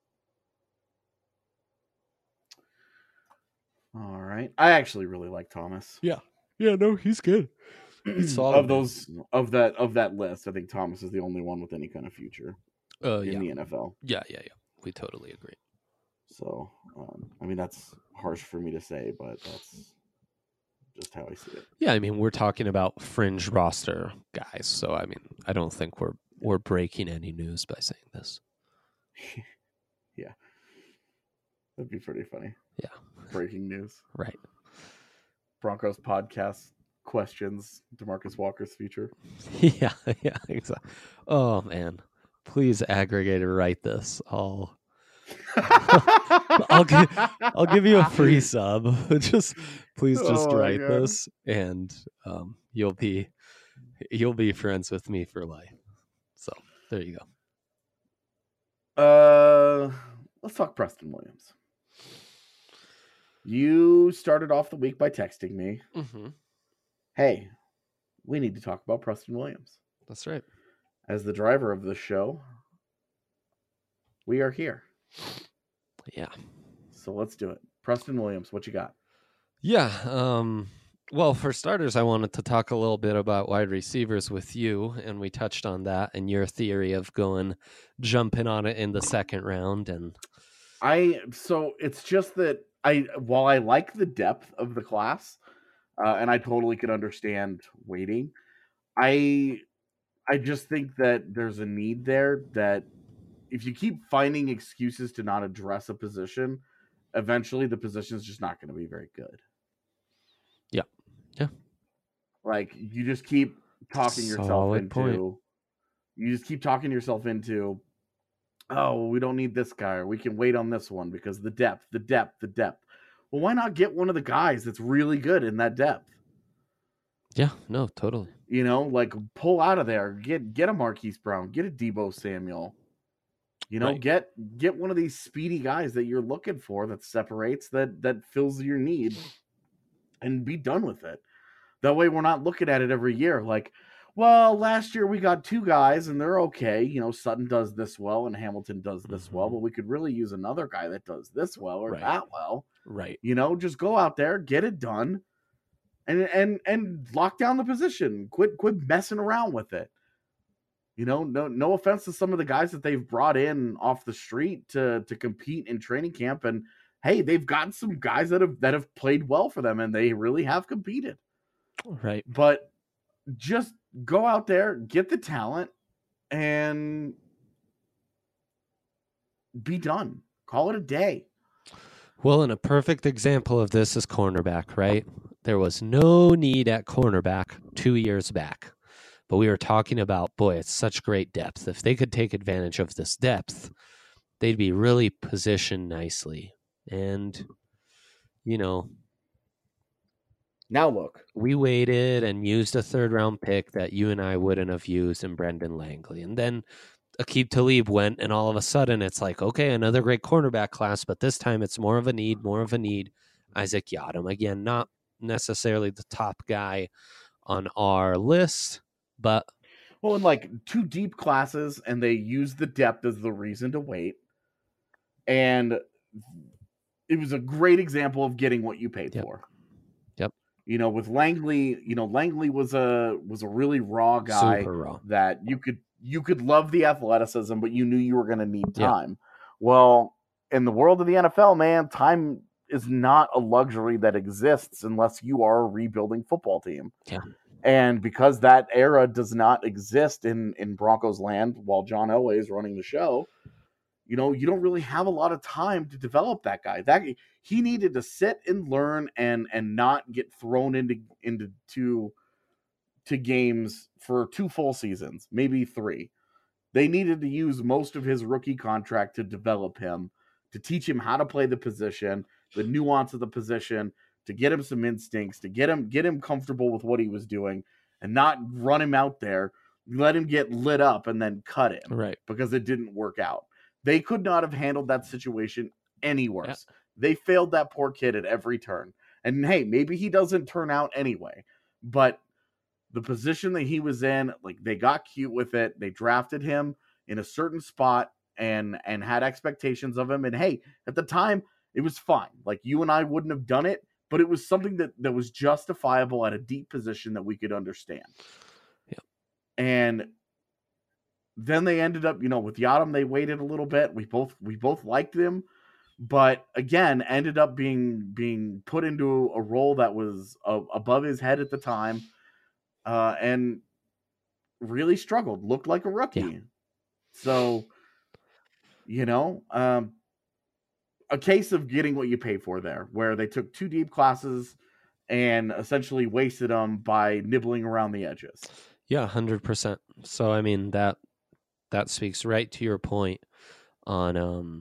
All right. I actually really like Thomas. Yeah. Yeah, no, he's good. He's solid, of those of that of that list, I think Thomas is the only one with any kind of future uh, in yeah. the N F L. Yeah, yeah, yeah. We totally agree. So, um, I mean, that's harsh for me to say, but that's just how I see it. Yeah, I mean, we're talking about fringe roster guys, so I mean, I don't think we're we're breaking any news by saying this. Yeah, that'd be pretty funny. Yeah, breaking news. Right. Broncos podcast questions DeMarcus Walker's future. Yeah, yeah, exactly. Oh man, please aggregator write this. I'll I'll give I'll give you a free sub. Just please just oh write this, and um, you'll be you'll be friends with me for life. So there you go. Uh, let's talk Preston Williams. You started off the week by texting me. Mm-hmm. Hey, we need to talk about Preston Williams. That's right. As the driver of the show, we are here. Yeah. So let's do it. Preston Williams, what you got? Yeah. Um, well, for starters, I wanted to talk a little bit about wide receivers with you, and we touched on that and your theory of going jumping on it in the second round. And I so it's just that I while I like the depth of the class, uh, and I totally could understand waiting, I I just think that there's a need there that if you keep finding excuses to not address a position, eventually the position is just not going to be very good. Yeah. Yeah. Like you just keep talking yourself Solid into, point. you just keep talking yourself into, oh, we don't need this guy, or we can wait on this one because the depth, the depth, the depth. Well, why not get one of the guys that's really good in that depth? Yeah, no, totally. You know, like pull out of there, get get a Marquise Brown, get a Deebo Samuel. You know, Right. get get one of these speedy guys that you're looking for that separates, that that fills your need, and be done with it. That way we're not looking at it every year like, well, last year we got two guys and they're okay. You know, Sutton does this well and Hamilton does this Mm-hmm. well, but we could really use another guy that does this well or Right. that well. Right. You know, just go out there, get it done, and and and lock down the position. Quit quit messing around with it. You know, no no offense to some of the guys that they've brought in off the street to to compete in training camp, and hey, they've got some guys that have that have played well for them and they really have competed. Right. But just go out there, get the talent, and be done. Call it a day. Well, and a perfect example of this is cornerback, right? There was no need at cornerback two years back. But we were talking about, boy, it's such great depth. If they could take advantage of this depth, they'd be really positioned nicely. And, you know, now look, we waited and used a third round pick that you and I wouldn't have used in Brendan Langley. And then Aqib Talib went, and all of a sudden it's like, okay, another great cornerback class, but this time it's more of a need, more of a need. Isaac Yiadom, again, not necessarily the top guy on our list, but well, in like two deep classes, and they use the depth as the reason to wait. And it was a great example of getting what you paid Yep. for. Yep. You know, with Langley, you know, Langley was a was a really raw guy Super raw. that you could you could love the athleticism, but you knew you were going to need Yeah. time. Well, in the world of the N F L, man, time is not a luxury that exists unless you are a rebuilding football team. Yeah. And because that era does not exist in, in Broncos land while John Elway is running the show, you know, you don't really have a lot of time to develop that guy. That he needed to sit and learn and and not get thrown into into to, to games for two full seasons, maybe three. They needed to use most of his rookie contract to develop him, to teach him how to play the position, the nuance of the position, to get him some instincts, to get him get him comfortable with what he was doing, and not run him out there, let him get lit up, and then cut him. Right. Because it didn't work out. They could not have handled that situation any worse. Yeah. They failed that poor kid at every turn. And hey, maybe he doesn't turn out anyway, but the position that he was in, like, they got cute with it. They drafted him in a certain spot and and had expectations of him. And hey, at the time, it was fine. Like, you and I wouldn't have done it, but it was something that, that was justifiable at a deep position that we could understand. Yeah. And then they ended up, you know, with Yadam, they waited a little bit. We both we both liked them, but again, ended up being being put into a role that was uh, above his head at the time. Uh, and really struggled, looked like a rookie. Yeah. So, you know, um, a case of getting what you pay for there, where they took two deep classes and essentially wasted them by nibbling around the edges. Yeah, one hundred percent. So, I mean, that that speaks right to your point on um,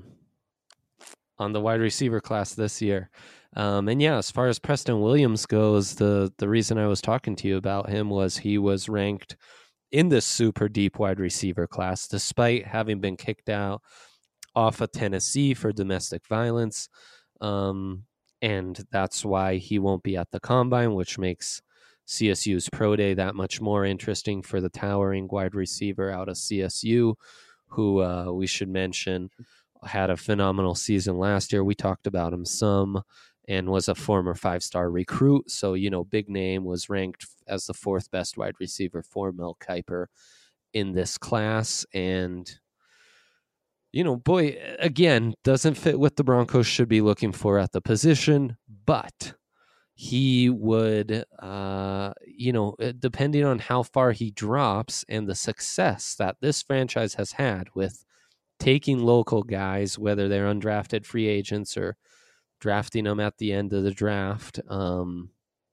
on the wide receiver class this year. Um, and yeah, as far as Preston Williams goes, the, the reason I was talking to you about him was he was ranked in this super deep wide receiver class, despite having been kicked out off of Tennessee for domestic violence. Um, and that's why he won't be at the combine, which makes C S U's pro day that much more interesting for the towering wide receiver out of C S U, who uh, we should mention had a phenomenal season last year. We talked about him some. And was a former five-star recruit. So, you know, big name, was ranked as the fourth best wide receiver for Mel Kiper in this class. And, you know, boy, again, doesn't fit what the Broncos should be looking for at the position, but he would, uh, you know, depending on how far he drops and the success that this franchise has had with taking local guys, whether they're undrafted free agents or drafting them at the end of the draft. Um,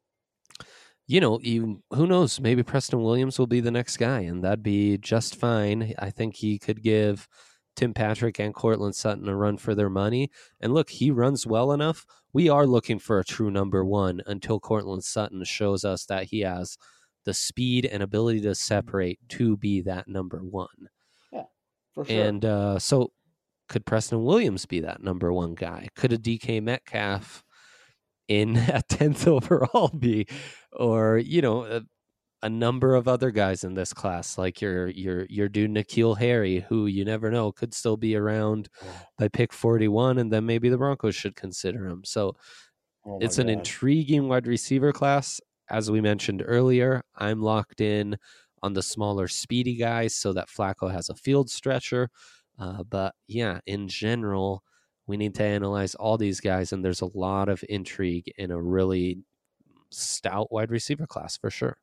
you know, you, who knows? Maybe Preston Williams will be the next guy, and that'd be just fine. I think he could give Tim Patrick and Courtland Sutton a run for their money. And look, he runs well enough. We are looking for a true number one until Courtland Sutton shows us that he has the speed and ability to separate to be that number one. Yeah, for sure. And uh, so, could Preston Williams be that number one guy? Could a D K Metcalf in at tenth overall be, or, you know, a, a number of other guys in this class, like your your your dude N'Keal Harry, who you never know could still be around by pick forty-one, and then maybe the Broncos should consider him. So oh it's God. an intriguing wide receiver class. As we mentioned earlier, I'm locked in on the smaller, speedy guys so that Flacco has a field stretcher. Uh, but yeah, in general, we need to analyze all these guys, and there's a lot of intrigue in a really stout wide receiver class for sure.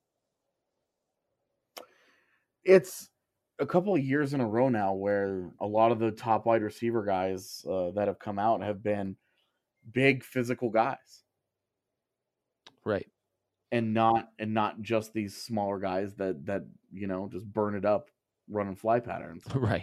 It's a couple of years in a row now where a lot of the top wide receiver guys uh, that have come out have been big physical guys, right? And not and not just these smaller guys that that you know just burn it up running fly patterns, right?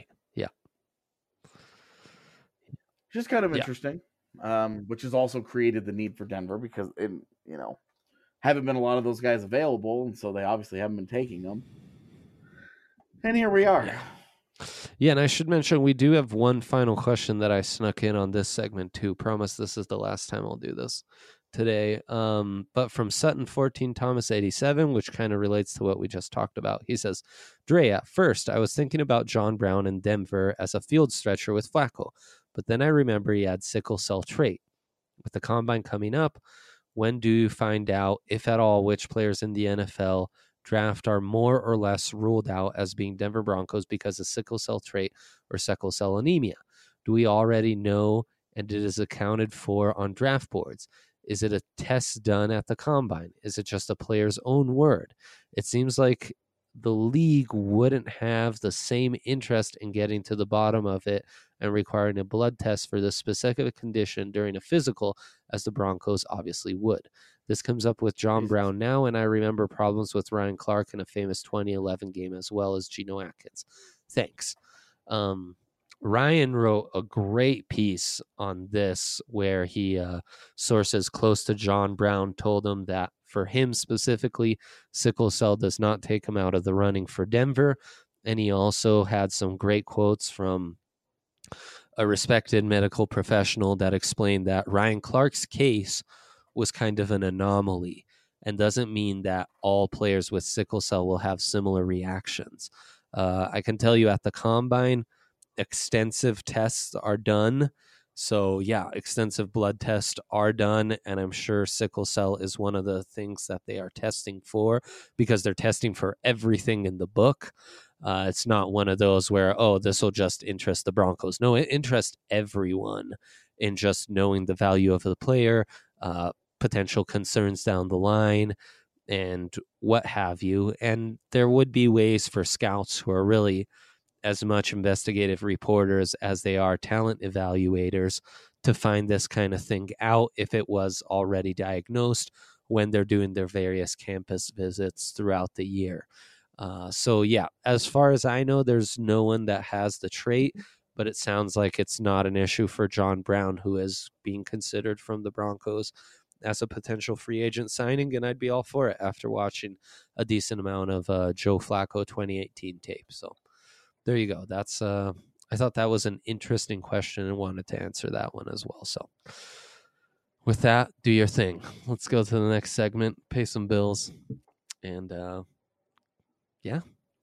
Just kind of Yeah. interesting, um, which has also created the need for Denver because, it, you know, haven't been a lot of those guys available, and so they obviously haven't been taking them. And here we are. Yeah. Yeah, and I should mention we do have one final question that I snuck in on this segment too. Promise this is the last time I'll do this today. Um, but from Sutton fourteen Thomas eighty-seven, which kind of relates to what we just talked about. He says, Dre, at first I was thinking about John Brown in Denver as a field stretcher with Flacco. But then I remember he had sickle cell trait. With the combine coming up, when do you find out, if at all, which players in the N F L draft are more or less ruled out as being Denver Broncos because of sickle cell trait or sickle cell anemia? Do we already know, and it is accounted for on draft boards? Is it a test done at the combine? Is it just a player's own word? It seems like the league wouldn't have the same interest in getting to the bottom of it and requiring a blood test for this specific condition during a physical as the Broncos obviously would. This comes up with John Brown now, and I remember problems with Ryan Clark in a famous twenty eleven game as well as Geno Atkins. Thanks. Um, Ryan wrote a great piece on this where he uh, sources close to John Brown told him that for him specifically, sickle cell does not take him out of the running for Denver. And he also had some great quotes from a respected medical professional that explained that Ryan Clark's case was kind of an anomaly and doesn't mean that all players with sickle cell will have similar reactions. Uh, I can tell you at the combine, extensive tests are done. So yeah, extensive blood tests are done, and I'm sure sickle cell is one of the things that they are testing for because they're testing for everything in the book. Uh, it's not one of those where, oh, this will just interest the Broncos. No, it interests everyone in just knowing the value of the player, uh, potential concerns down the line, and what have you. And there would be ways for scouts who are really as much investigative reporters as they are talent evaluators to find this kind of thing out if it was already diagnosed when they're doing their various campus visits throughout the year. Uh, so yeah, as far as I know, there's no one that has the trait, but it sounds like it's not an issue for John Brown, who is being considered from the Broncos as a potential free agent signing, and I'd be all for it after watching a decent amount of uh, Joe Flacco twenty eighteen tape. So there you go. That's uh, I thought that was an interesting question and wanted to answer that one as well. So with that, do your thing. Let's go to the next segment, pay some bills, and uh, yeah.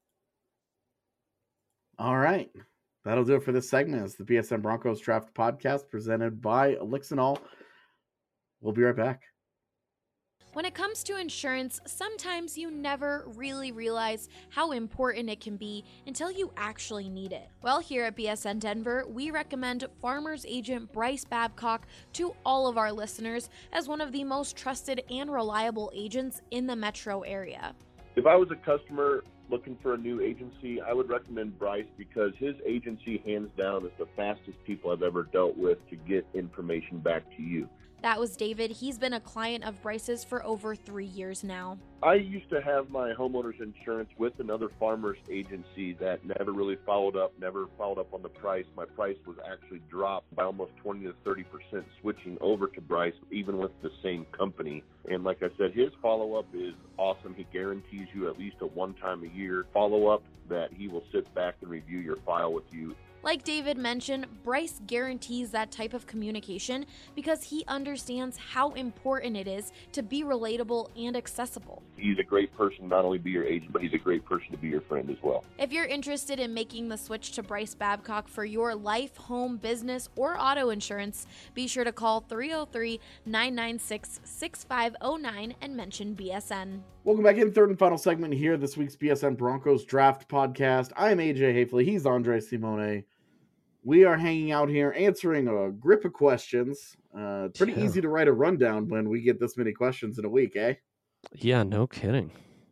All right. That'll do it for this segment. It's the B S N Broncos Draft Podcast presented by Elixinol. We'll be right back. When it comes to insurance, sometimes you never really realize how important it can be until you actually need it. Well, here at B S N Denver, we recommend Farmers Agent Bryce Babcock to all of our listeners as one of the most trusted and reliable agents in the metro area. If I was a customer looking for a new agency, I would recommend Bryce because his agency, hands down, is the fastest people I've ever dealt with to get information back to you. That was David. He's been a client of Bryce's for over three years now. I used to have my homeowner's insurance with another farmer's agency that never really followed up, never followed up on the price. My price was actually dropped by almost twenty to thirty percent switching over to Bryce, even with the same company. And like I said, his follow-up is awesome. He guarantees you at least a one-time a year follow-up that he will sit back and review your file with you. Like David mentioned, Bryce guarantees that type of communication because he understands how important it is to be relatable and accessible. He's a great person, not only to be your agent, but he's a great person to be your friend as well. If you're interested in making the switch to Bryce Babcock for your life, home, business, or auto insurance, be sure to call three oh three, nine nine six, six five oh nine and mention B S N. Welcome back in, third and final segment here, this week's B S N Broncos Draft Podcast. I'm A J Hafley. He's Andre Simone. We are hanging out here answering a grip of questions. Uh, pretty Yeah. easy to write a rundown when we get this many questions in a week, eh? Yeah, no kidding.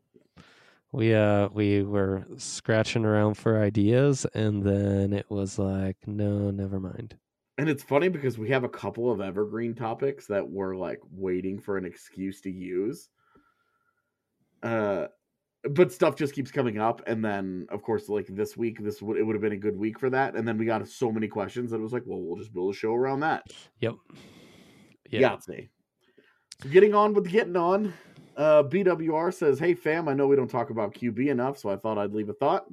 We uh we were scratching around for ideas, and then it was like, no, never mind. And it's funny because we have a couple of evergreen topics that we're like waiting for an excuse to use. Uh, but stuff just keeps coming up, and then of course, like this week, this would it would have been a good week for that, and then we got so many questions that it was like, well, we'll just build a show around that. Yep. Yeah. See. So getting on with getting on. Uh, B W R says, "Hey fam, I know we don't talk about Q B enough, so I thought I'd leave a thought.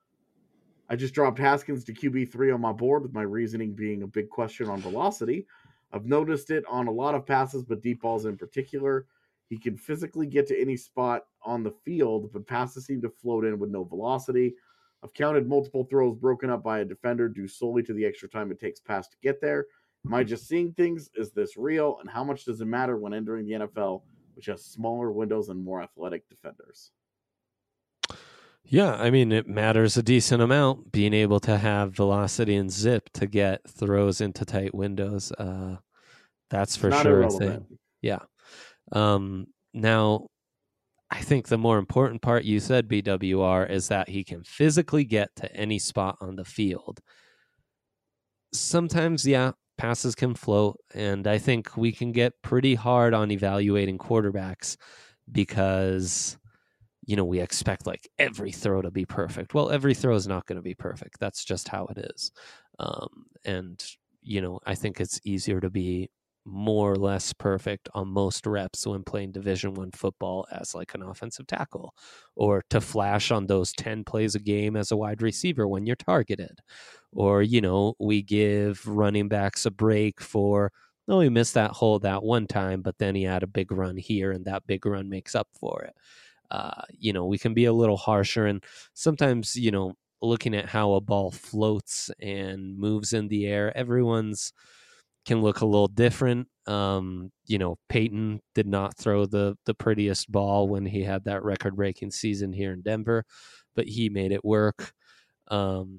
I just dropped Haskins to Q B three on my board, with my reasoning being a big question on velocity. I've noticed it on a lot of passes, but deep balls in particular. He can physically get to any spot on the field, but passes seem to float in with no velocity. I've counted multiple throws broken up by a defender due solely to the extra time it takes pass to get there. Am I just seeing things? Is this real? And how much does it matter when entering the N F L, which has smaller windows and more athletic defenders? Yeah, I mean, it matters a decent amount, being able to have velocity and zip to get throws into tight windows. Uh, that's for Not sure a irrelevant. thing. Yeah. Um, now, I think the more important part you said, B W R, is that he can physically get to any spot on the field. Sometimes, yeah, passes can float, and I think we can get pretty hard on evaluating quarterbacks because, you know, we expect like every throw to be perfect. Well, every throw is not going to be perfect. That's just how it is. Um, and, you know, I think it's easier to be more or less perfect on most reps when playing Division One football as like an offensive tackle, or to flash on those ten plays a game as a wide receiver when you're targeted. Or, you know, we give running backs a break for, no, he missed that hole that one time, but then he had a big run here and that big run makes up for it. Uh, you know, we can be a little harsher, and sometimes, you know, looking at how a ball floats and moves in the air, everyone's can look a little different. Um, you know, Peyton did not throw the the prettiest ball when he had that record-breaking season here in Denver, but he made it work. Um,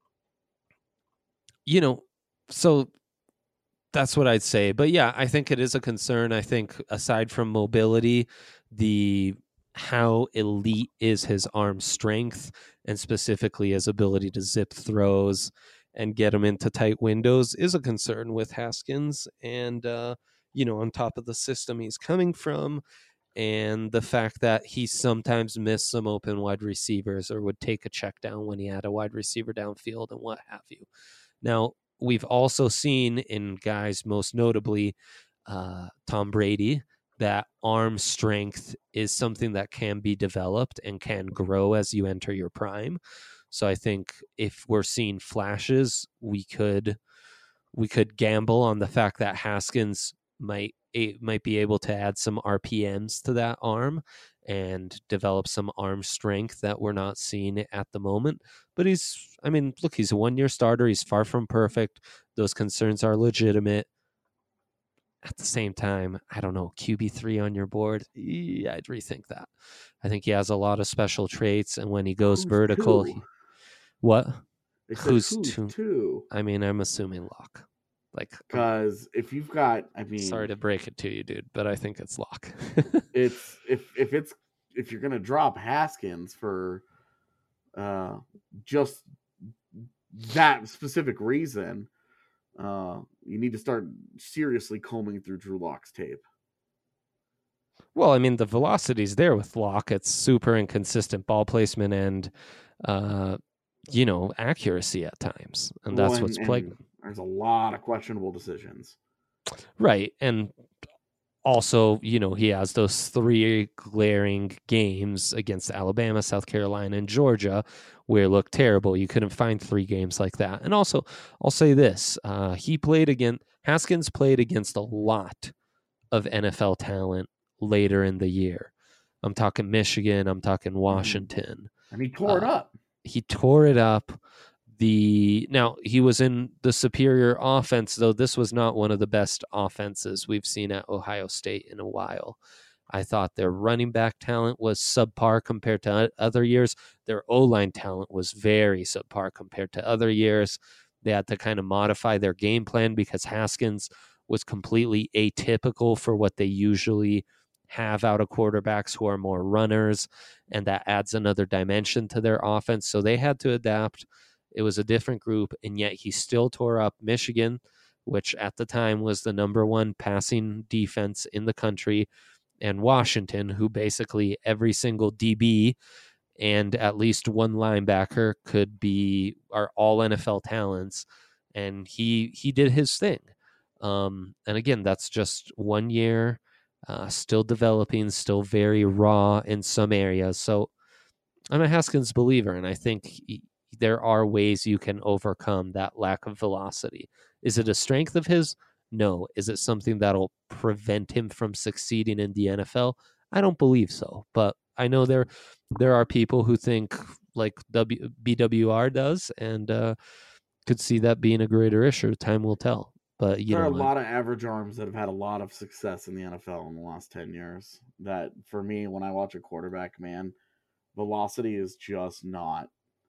you know, so that's what I'd say. But yeah, I think it is a concern. I think aside from mobility, the how elite is his arm strength, and specifically his ability to zip throws and get him into tight windows, is a concern with Haskins. And, uh, you know, on top of the system he's coming from, and the fact that he sometimes missed some open wide receivers or would take a check down when he had a wide receiver downfield and what have you. Now, we've also seen in guys, most notably uh, Tom Brady, that arm strength is something that can be developed and can grow as you enter your prime. So I think if we're seeing flashes, we could we could gamble on the fact that Haskins might it might be able to add some R P Ms to that arm and develop some arm strength that we're not seeing at the moment. But he's, I mean, look, he's a one-year starter. He's far from perfect. Those concerns are legitimate. At the same time, I don't know, Q B three on your board, yeah, I'd rethink that. I think he has a lot of special traits, and when he goes Who's vertical, two? he, what? They said Who's, who's two? two? I mean, I'm assuming Locke. Like, Because if you've got, I mean, sorry to break it to you, dude, but I think it's Locke. it's if if it's if you're gonna drop Haskins for uh just that specific reason, uh you need to start seriously combing through Drew Lock's tape. Well, I mean, the velocity's there with Locke. It's super inconsistent ball placement and, uh, you know, accuracy at times, and that's Well, and- what's plaguing and him. There's a lot of questionable decisions. Right, and also, you know, he has those three glaring games against Alabama, South Carolina, and Georgia where it looked terrible. You couldn't find three games like that. And also, I'll say this. Uh, he played against, Haskins played against a lot of N F L talent later in the year. I'm talking Michigan. I'm talking Washington. And he tore it Uh, up. He tore it up. The now he was in the superior offense, though this was not one of the best offenses we've seen at Ohio State in a while. I thought their running back talent was subpar compared to o- other years. Their O-line talent was very subpar compared to other years. They had to kind of modify their game plan because Haskins was completely atypical for what they usually have out of quarterbacks who are more runners, and that adds another dimension to their offense. So they had to adapt. It was a different group, and yet he still tore up Michigan, which at the time was the number one passing defense in the country, and Washington, who basically every single D B and at least one linebacker could be are all N F L talents, and he he did his thing. Um, and again, that's just one year, uh, still developing, still very raw in some areas. So I'm a Haskins believer, and I think he, there are ways you can overcome that lack of velocity. Is it a strength of his? No. Is it something that'll prevent him from succeeding in the N F L? I don't believe so. But I know there there are people who think like w, B W R does, and uh, could see that being a greater issue. Time will tell. But you there know, are a lot of average arms that have had a lot of success in the N F L in the last ten years. That for me, when I watch a quarterback, man, velocity is just not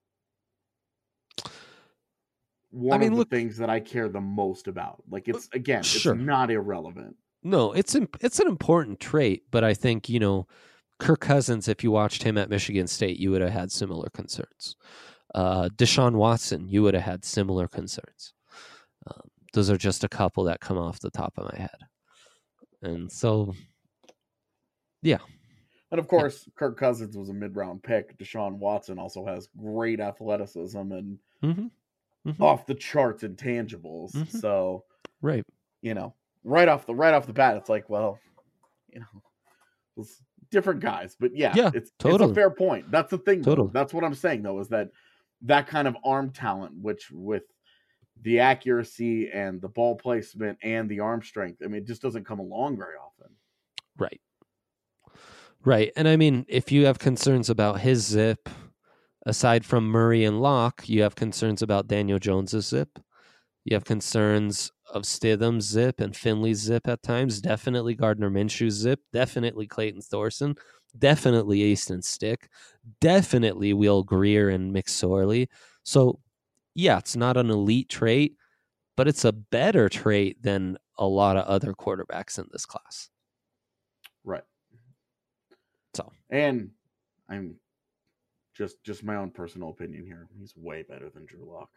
one I mean, of the look, things that I care the most about. Like it's again, sure. it's not irrelevant. No, it's imp- it's an important trait, but I think, you know, Kirk Cousins, if you watched him at Michigan State, you would have had similar concerns. Uh, Deshaun Watson, you would have had similar concerns. Um, those are just a couple that come off the top of my head. And so, yeah. And of course, yeah. Kirk Cousins was a mid-round pick. Deshaun Watson also has great athleticism and mm-hmm. Mm-hmm. off the charts intangibles. Mm-hmm. So, right, you know, right off the right off the bat, it's like, well, you know, it's different guys, but yeah, yeah it's, totally. it's a fair point. That's the thing. Totally. Though. That's what I'm saying, though, is that that kind of arm talent, which with the accuracy and the ball placement and the arm strength, I mean, it just doesn't come along very often. Right. Right. And I mean, if you have concerns about his zip, aside from Murray and Locke, you have concerns about Daniel Jones's zip. You have concerns of Stidham's zip and Finley's zip at times. Definitely Gardner Minshew's zip. Definitely Clayton Thorson. Definitely Easton Stick. Definitely Will Greer and McSorley. So, yeah, it's not an elite trait, but it's a better trait than a lot of other quarterbacks in this class. Right. So, and I'm just just my own personal opinion here. He's way better than Drew Lock.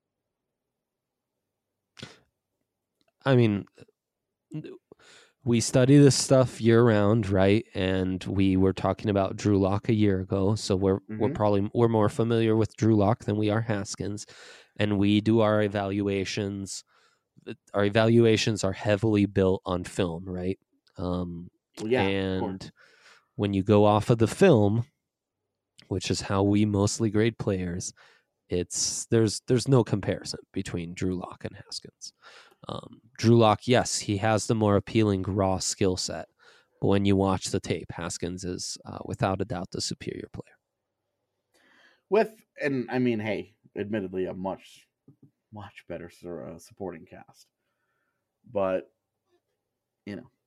I mean, we study this stuff year round, right? And we were talking about Drew Lock a year ago, so we're mm-hmm. we're probably we're more familiar with Drew Lock than we are Haskins, and we do our evaluations. Our evaluations are heavily built on film, right? Um, well, yeah, and when you go off of the film, which is how we mostly grade players, it's there's there's no comparison between Drew Lock and Haskins. Um, Drew Lock, yes, he has the more appealing raw skill set, but when you watch the tape, Haskins is uh, without a doubt the superior player. With, and I mean, hey, admittedly, a much, much better uh, supporting cast. But, you know.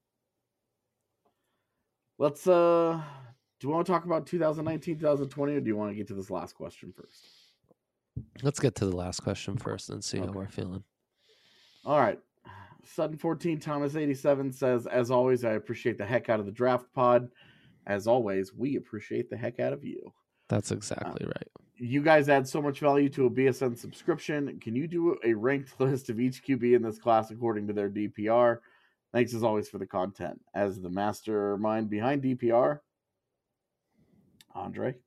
Let's, uh, do you want to talk about twenty nineteen, twenty twenty, or do you want to get to this last question first? Let's get to the last question first and see okay. how we're feeling. All right. Sutton fourteen, Thomas eighty-seven says, as always, I appreciate the heck out of the draft pod. As always, we appreciate the heck out of you. That's exactly uh, right. You guys add so much value to a B S N subscription. Can you do a ranked list of each Q B in this class according to their D P R? Thanks as always for the content. As the mastermind behind D P R, Andre?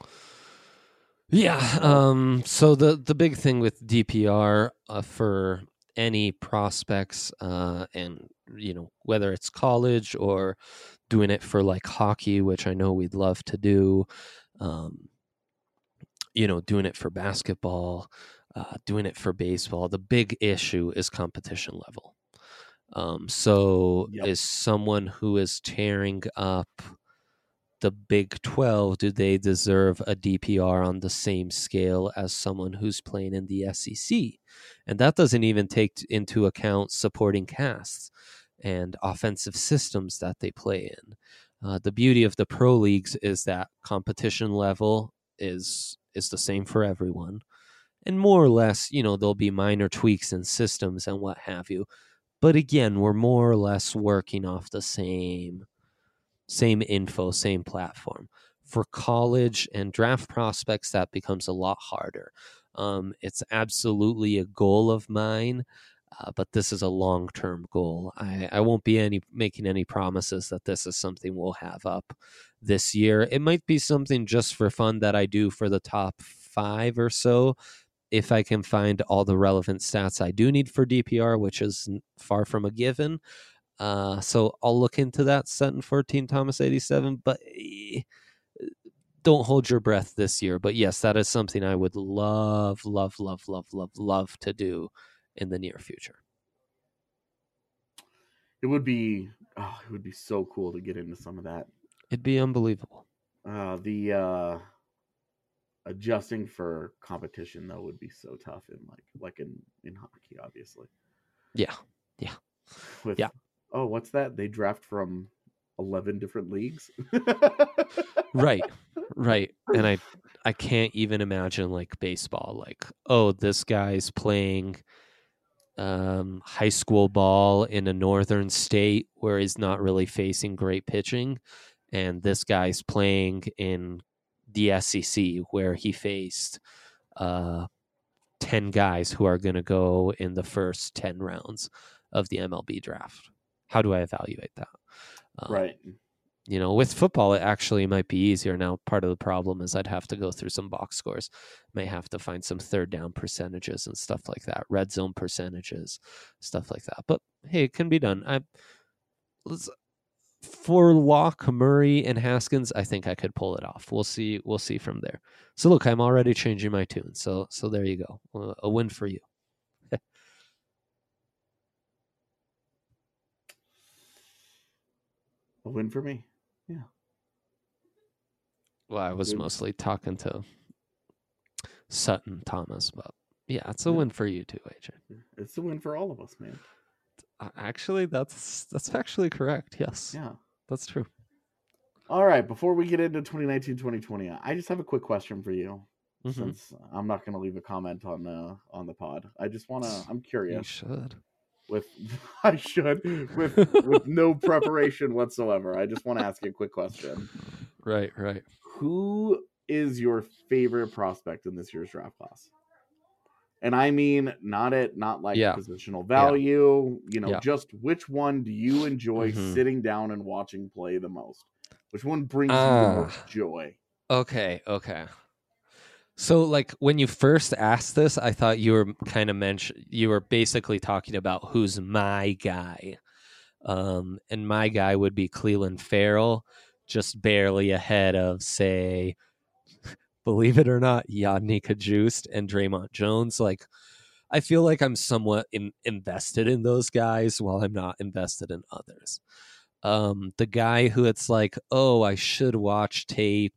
Yeah. Um, so the, the big thing with D P R uh, for any prospects uh, and, you know, whether it's college or doing it for like hockey, which I know we'd love to do, um, you know, doing it for basketball, uh, doing it for baseball, the big issue is competition level. Um, so yep. Is someone who is tearing up the Big twelve, do they deserve a D P R on the same scale as someone who's playing in the S E C? And that doesn't even take into account supporting casts and offensive systems that they play in. Uh, the beauty of the pro leagues is that competition level is is the same for everyone. And more or less, you know, there'll be minor tweaks in systems and what have you. But again, we're more or less working off the same Same info, same platform. For college and draft prospects, that becomes a lot harder. Um, it's absolutely a goal of mine, uh, but this is a long-term goal. I, I won't be any making any promises that this is something we'll have up this year. It might be something just for fun that I do for the top five or so, if I can find all the relevant stats I do need for D P R, which is far from a given. Uh, so I'll look into that, Sutton fourteen, Thomas eighty-seven, but eh, don't hold your breath this year. But yes, that is something I would love, love, love, love, love, love to do in the near future. It would be, oh, it would be so cool to get into some of that. It'd be unbelievable. Uh, the uh, adjusting for competition though would be so tough in like like in, in hockey, obviously. Yeah. Yeah. With, yeah. Oh, what's that? They draft from eleven different leagues. Right. Right. And I I can't even imagine like baseball, like, oh, this guy's playing um, high school ball in a northern state where he's not really facing great pitching. And this guy's playing in the S E C where he faced uh, ten guys who are going to go in the first ten rounds of the M L B draft. How do I evaluate that? Um, right. You know, with football, it actually might be easier. Now, part of the problem is I'd have to go through some box scores. May have to find some third down percentages and stuff like that, red zone percentages, stuff like that. But hey, it can be done. I let's, for Locke, Murray, and Haskins, I think I could pull it off. We'll see. We'll see from there. So look, I'm already changing my tune. So so there you go. Uh, a win for you. A win for me. Yeah. Well, I was Good. mostly talking to Sutton Thomas, but yeah, it's a Yeah. win for you too, A J. It's a win for all of us, man. Uh, Actually, that's that's actually correct. Yes, Yeah. that's true. All right. Before we get into twenty nineteen twenty twenty, I just have a quick question for you. Mhm. Since I'm not going to leave a comment on uh, on the pod, I just want to. I'm You curious. should. With I should with with no preparation whatsoever. I just want to ask you a quick question. Right, right. Who is your favorite prospect in this year's draft class? And I mean, not at not like Yeah. positional value. You know, Yeah. just which one do you enjoy Mhm. sitting down and watching play the most? Which one brings you the Ah. most joy? Okay, okay. So, like, when you first asked this, I thought you were kind of mention you were basically talking about who's my guy, um, and my guy would be Cleveland Farrell, just barely ahead of, say, believe it or not, Yadni Kajust and Draymond Jones. Like, I feel like I'm somewhat in, invested in those guys while I'm not invested in others. Um, the guy who it's like, oh, I should watch tape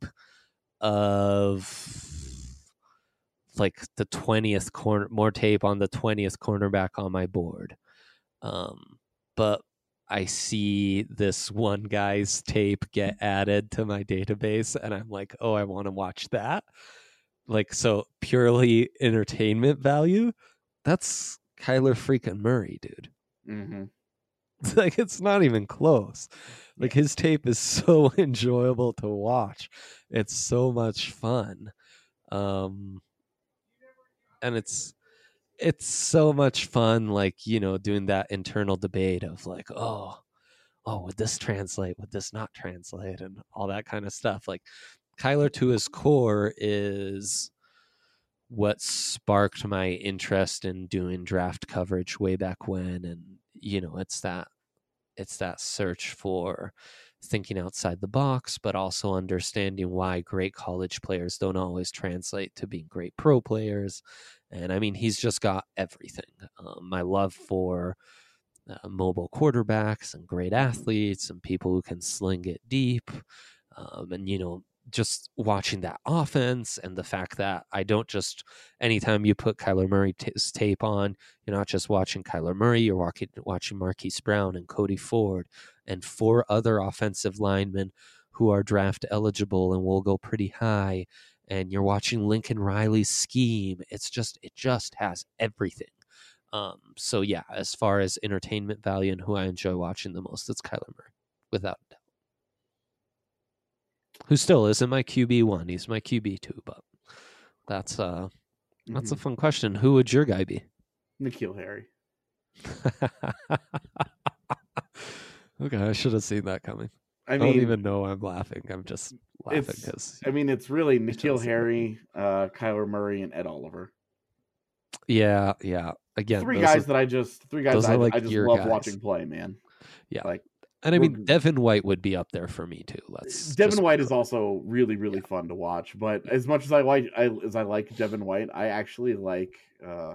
of like the twentieth corner, more tape on the twentieth cornerback on my board. Um, but I see this one guy's tape get added to my database and I'm like, oh, I want to watch that. Like, so purely entertainment value, that's Kyler freaking Murray, dude. Mm-hmm. Like, it's not even close. Like, his tape is so enjoyable to watch. It's so much fun. Um, and it's it's so much fun, like, you know, doing that internal debate of like, oh, oh, would this translate? Would this not translate? And all that kind of stuff. Like, Kyler, to his core, is what sparked my interest in doing draft coverage way back when. And, you know, it's that it's that search for thinking outside the box, but also understanding why great college players don't always translate to being great pro players. And I mean, he's just got everything. Um, my love for uh, mobile quarterbacks and great athletes and people who can sling it deep. Um, and, you know, just watching that offense and the fact that I don't just, anytime you put Kyler Murray's tape on, you're not just watching Kyler Murray, you're watching, watching Marquise Brown and Cody Ford and four other offensive linemen who are draft eligible and will go pretty high. And you're watching Lincoln Riley's scheme. It's just, it just has everything. Um, so yeah, as far as entertainment value and who I enjoy watching the most, it's Kyler Murray, without a doubt. Who still isn't my Q B one. He's my Q B two, but that's uh that's Mm-hmm. a fun question. Who would your guy be? N'Keal Harry. Okay, I should have seen that coming. I I, mean, don't even know I'm laughing. I'm just laughing it's. because I mean, it's really should've N'Keal seen that Harry, uh, Kyler Murray, and Ed Oliver. yeah, yeah. Again, Three those guys are- that I just three guys those I, are, like, I just your love guys. watching play, man. Yeah. Like, and I mean, we're- Devin White would be up there for me too. Let's Devin just- White is also really, really fun to watch. But as much as I like, I, as I like Devin White, I actually like uh,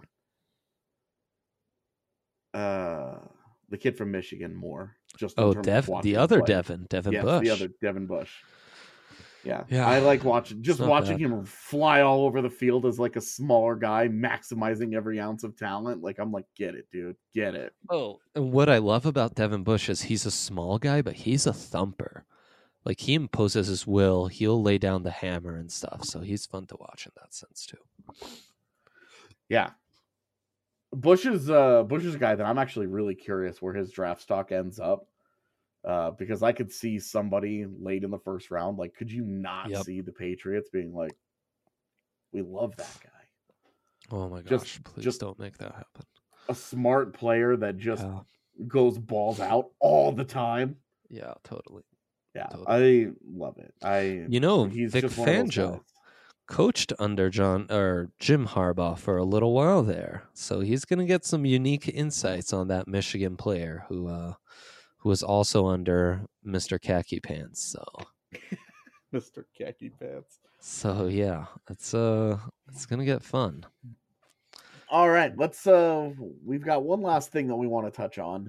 uh, the kid from Michigan more. Just in Oh, terms of Dev, watching the him other play. Devin, Devin yes, Bush. the other Devin Bush. Yeah. Yeah. I like watching just not watching bad. him fly all over the field as like a smaller guy, maximizing every ounce of talent. Like I'm like, get it, dude, get it. Oh, and what I love about Devin Bush is he's a small guy, but he's a thumper. Like he imposes his will. He'll lay down the hammer and stuff. So he's fun to watch in that sense too. Yeah. Bush is uh Bush is a guy that I'm actually really curious where his draft stock ends up. Uh, because I could see somebody late in the first round. Like, could you not Yep. see the Patriots being like, we love that guy? Oh my gosh! Just- please just- don't make that happen. A smart player that just Yeah, goes balls out all the time. yeah, totally. Yeah, Totally. I love it. I You know, he's Vic just one of those Fangio guys. coached under John or Jim Harbaugh for a little while there, so he's going to get some unique insights on that Michigan player who uh, who was also under Mister Khaki Pants. So, Mister Khaki Pants. so yeah, it's uh, it's going to get fun. All right, let's. Uh, we've got one last thing that we want to touch on.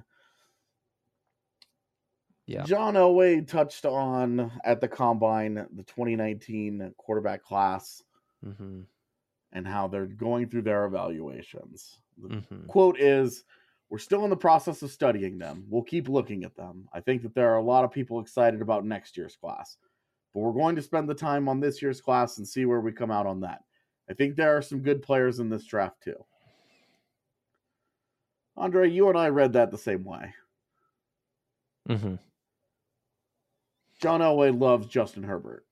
Yeah. John Elway touched on at the combine the twenty nineteen quarterback class hmm and how they're going through their evaluations. The hmm quote is, "We're still in the process of studying them. We'll keep looking at them. I think that there are a lot of people excited about next year's class, but we're going to spend the time on this year's class and see where we come out on that. I think there are some good players in this draft too." Andre, you and I read that the same way. hmm John Elway loves Justin Herbert.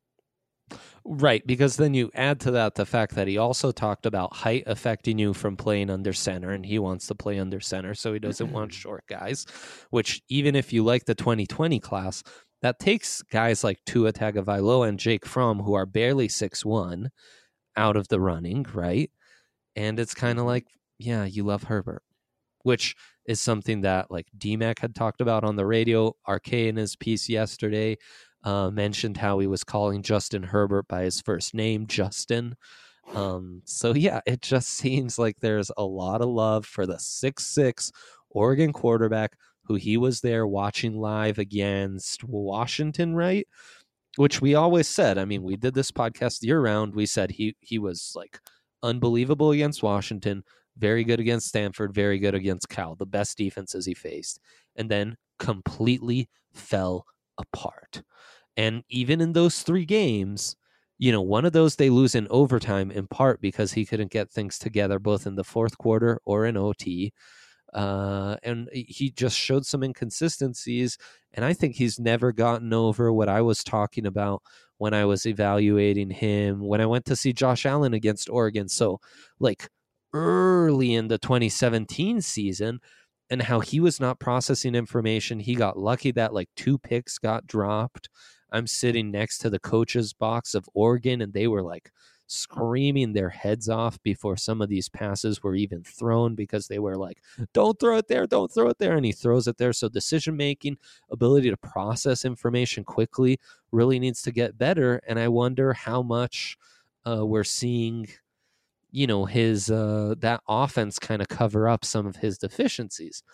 Right, because then you add to that the fact that he also talked about height affecting you from playing under center, and he wants to play under center, so he doesn't want short guys, which even if you like the twenty twenty class, that takes guys like Tua Tagovailoa and Jake Fromm, who are barely six one, out of the running, right? And it's kind of like, yeah, you love Herbert, which is something that like D-Mac had talked about on the radio. R K in his piece yesterday uh, mentioned how he was calling Justin Herbert by his first name, Justin. Um, so yeah, it just seems like there's a lot of love for the six six Oregon quarterback who he was there watching live against Washington, right? Which we always said. I mean, we did this podcast year round. We said he he was like unbelievable against Washington, very good against Stanford, very good against Cal, the best defenses he faced, and then completely fell apart. And even in those three games, you know, one of those they lose in overtime in part because he couldn't get things together both in the fourth quarter or in O T. Uh, and he just showed some inconsistencies. And I think he's never gotten over what I was talking about when I was evaluating him, when I went to see Josh Allen against Oregon. So, like, early in the twenty seventeen season, and how he was not processing information. He got lucky that like two picks got dropped. I'm sitting next to the coach's box of Oregon, and they were like screaming their heads off before some of these passes were even thrown because they were like, don't throw it there, don't throw it there. And he throws it there. So decision making, ability to process information quickly really needs to get better. And I wonder how much uh, we're seeing, you know, his uh, that offense kind of cover up some of his deficiencies.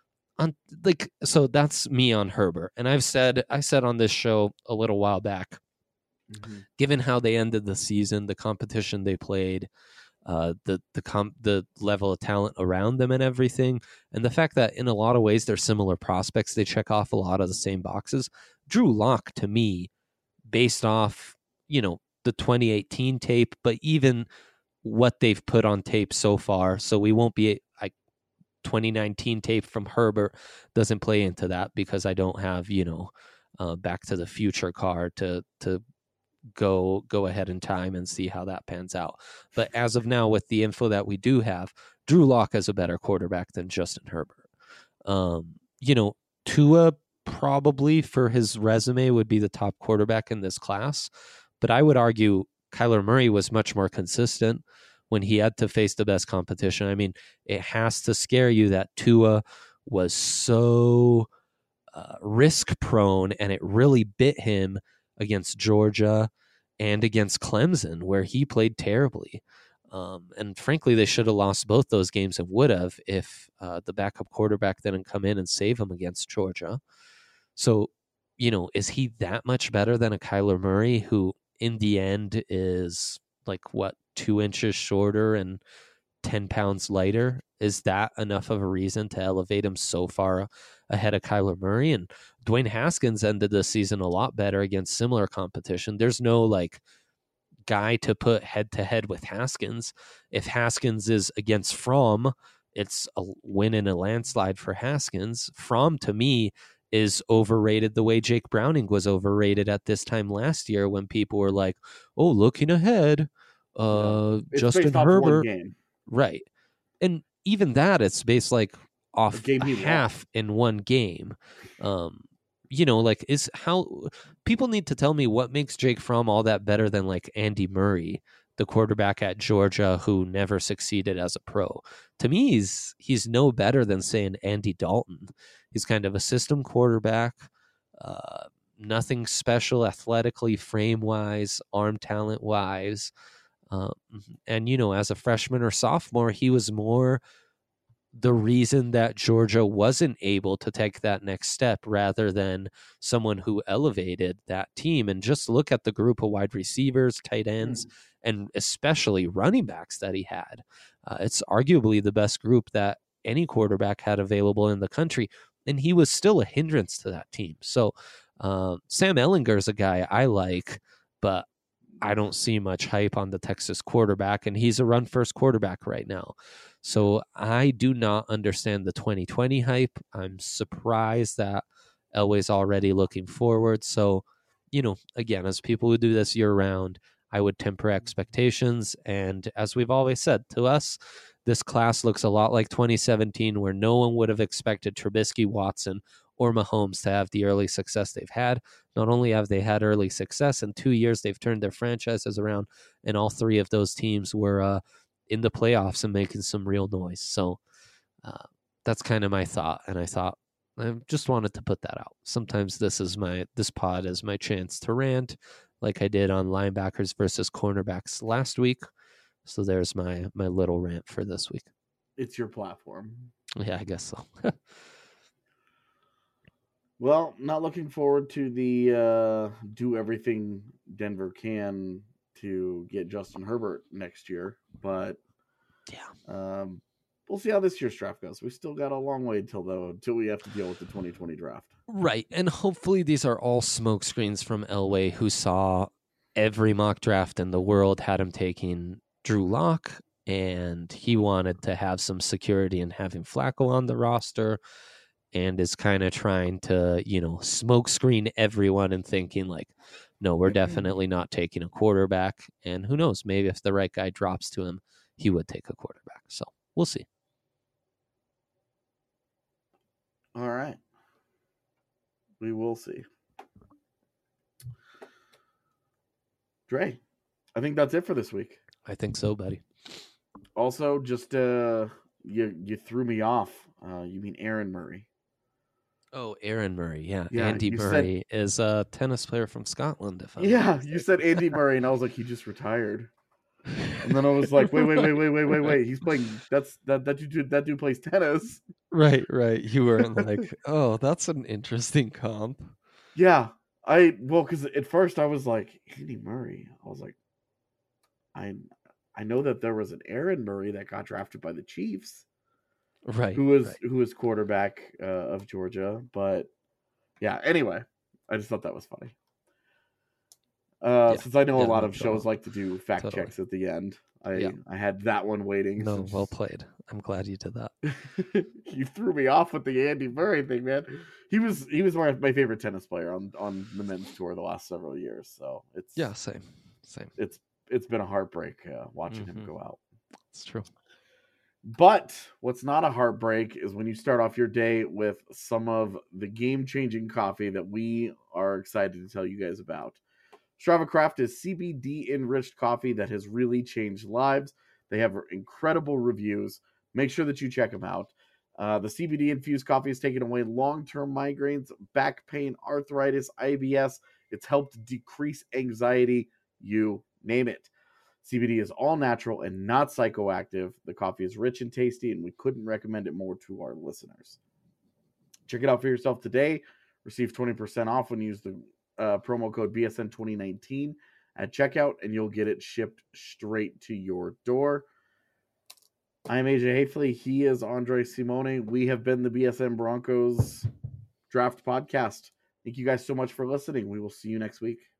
On like, so that's me on Herbert. And I've said, I said on this show a little while back, mm-hmm. given how they ended the season, the competition they played, uh, the the com- the level of talent around them and everything, and the fact that in a lot of ways they're similar prospects, they check off a lot of the same boxes. Drew Lock, to me, based off, you know, the twenty eighteen tape, but even what they've put on tape so far, so we won't be like twenty nineteen tape from Herbert doesn't play into that because I don't have, you know, uh, Back to the Future card to to go go ahead in time and see how that pans out. But as of now, with the info that we do have, Drew Lock is a better quarterback than Justin Herbert. Um, you know, Tua probably for his resume would be the top quarterback in this class, but I would argue Kyler Murray was much more consistent when he had to face the best competition. I mean, it has to scare you that Tua was so uh, risk prone, and it really bit him against Georgia and against Clemson, where he played terribly. Um, and frankly, they should have lost both those games and would have if uh, the backup quarterback didn't come in and save him against Georgia. So you know, is he that much better than a Kyler Murray, who in the end is like, what, two inches shorter and ten pounds lighter? Is that enough of a reason to elevate him so far ahead of Kyler Murray? And Dwayne Haskins ended the season a lot better against similar competition. There's no like guy to put head to head with Haskins. If Haskins is against Fromm, it's a win in a landslide for Haskins. Fromm, to me, is overrated the way Jake Browning was overrated at this time last year when people were like, oh, looking ahead, uh, It's Justin based off one Herbert. game. Right. And even that, it's based like off game a he half in one game. Um, you know, like is how people need to tell me what makes Jake Fromm all that better than like Andy Murray, the quarterback at Georgia who never succeeded as a pro. To me, he's he's no better than saying Andy Dalton. He's kind of a system quarterback, uh, nothing special athletically, frame wise, arm talent wise. Um, and, you know, as a freshman or sophomore, he was more the reason that Georgia wasn't able to take that next step rather than someone who elevated that team. And just look at the group of wide receivers, tight ends, mm. and especially running backs that he had. Uh, it's arguably the best group that any quarterback had available in the country. And he was still a hindrance to that team. So um, Sam Ehlinger is a guy I like, but I don't see much hype on the Texas quarterback, and he's a run-first quarterback right now. So I do not understand the twenty twenty hype. I'm surprised that Elway's already looking forward. So, you know, again, as people who do this year-round, I would temper expectations. And as we've always said, to us, this class looks a lot like twenty seventeen, where no one would have expected Trubisky, Watson, or Mahomes to have the early success they've had. Not only have they had early success, in two years they've turned their franchises around, and all three of those teams were uh, in the playoffs and making some real noise. So uh, that's kind of my thought, and I thought I just wanted to put that out. Sometimes this is my this pod is my chance to rant, like I did on linebackers versus cornerbacks last week. So there's my my little rant for this week. It's your platform. Yeah, I guess so. Well, not looking forward to the uh, do everything Denver can to get Justin Herbert next year, but yeah, um, we'll see how this year's draft goes. We still got a long way until though until we have to deal with the twenty twenty draft. Right, and hopefully these are all smokescreens from Elway, who saw every mock draft in the world had him taking Drew Lock, and he wanted to have some security in having Flacco on the roster. And is kind of trying to, you know, smoke screen everyone and thinking like, no, we're definitely not taking a quarterback. And who knows, maybe if the right guy drops to him, he would take a quarterback. So we'll see. All right. We will see. Dre, I think that's it for this week. I think so, buddy. Also, just uh, you you threw me off. Uh, you mean Aaron Murray? Oh, Aaron Murray, yeah. yeah Andy Murray said, is a tennis player from Scotland. If I'm yeah, you said Andy Murray, and I was like, he just retired. And then I was like, wait, wait, wait, wait, wait, wait, wait. He's playing. That's that that dude. That dude plays tennis. Right, right. You weren't like, oh, that's an interesting comp. Yeah, I well, because at first I was like, Andy Murray. I was like, I I know that there was an Aaron Murray that got drafted by the Chiefs. Right, who was right. who was quarterback uh, of Georgia, but yeah. Anyway, I just thought that was funny. Uh, yeah. Since I know yeah, a lot no, of shows like to do fact totally. checks at the end, I yeah. I had that one waiting. No, since... well played. I'm glad you did that. You threw me off with the Andy Murray thing, man. He was he was my my favorite tennis player on on the men's tour the last several years. So it's yeah, same, same. It's it's been a heartbreak uh, watching mm-hmm. him go out. It's true. But what's not a heartbreak is when you start off your day with some of the game-changing coffee that we are excited to tell you guys about. Strava Craft is C B D-enriched coffee that has really changed lives. They have incredible reviews. Make sure that you check them out. Uh, the C B D-infused coffee has taken away long-term migraines, back pain, arthritis, I B S. It's helped decrease anxiety. You name it. C B D is all natural and not psychoactive. The coffee is rich and tasty, and we couldn't recommend it more to our listeners. Check it out for yourself today. Receive twenty percent off when you use the uh, promo code B S N twenty nineteen at checkout, and you'll get it shipped straight to your door. I'm A J Hafley. He is Andre Simone. We have been the B S N Broncos Draft Podcast. Thank you guys so much for listening. We will see you next week.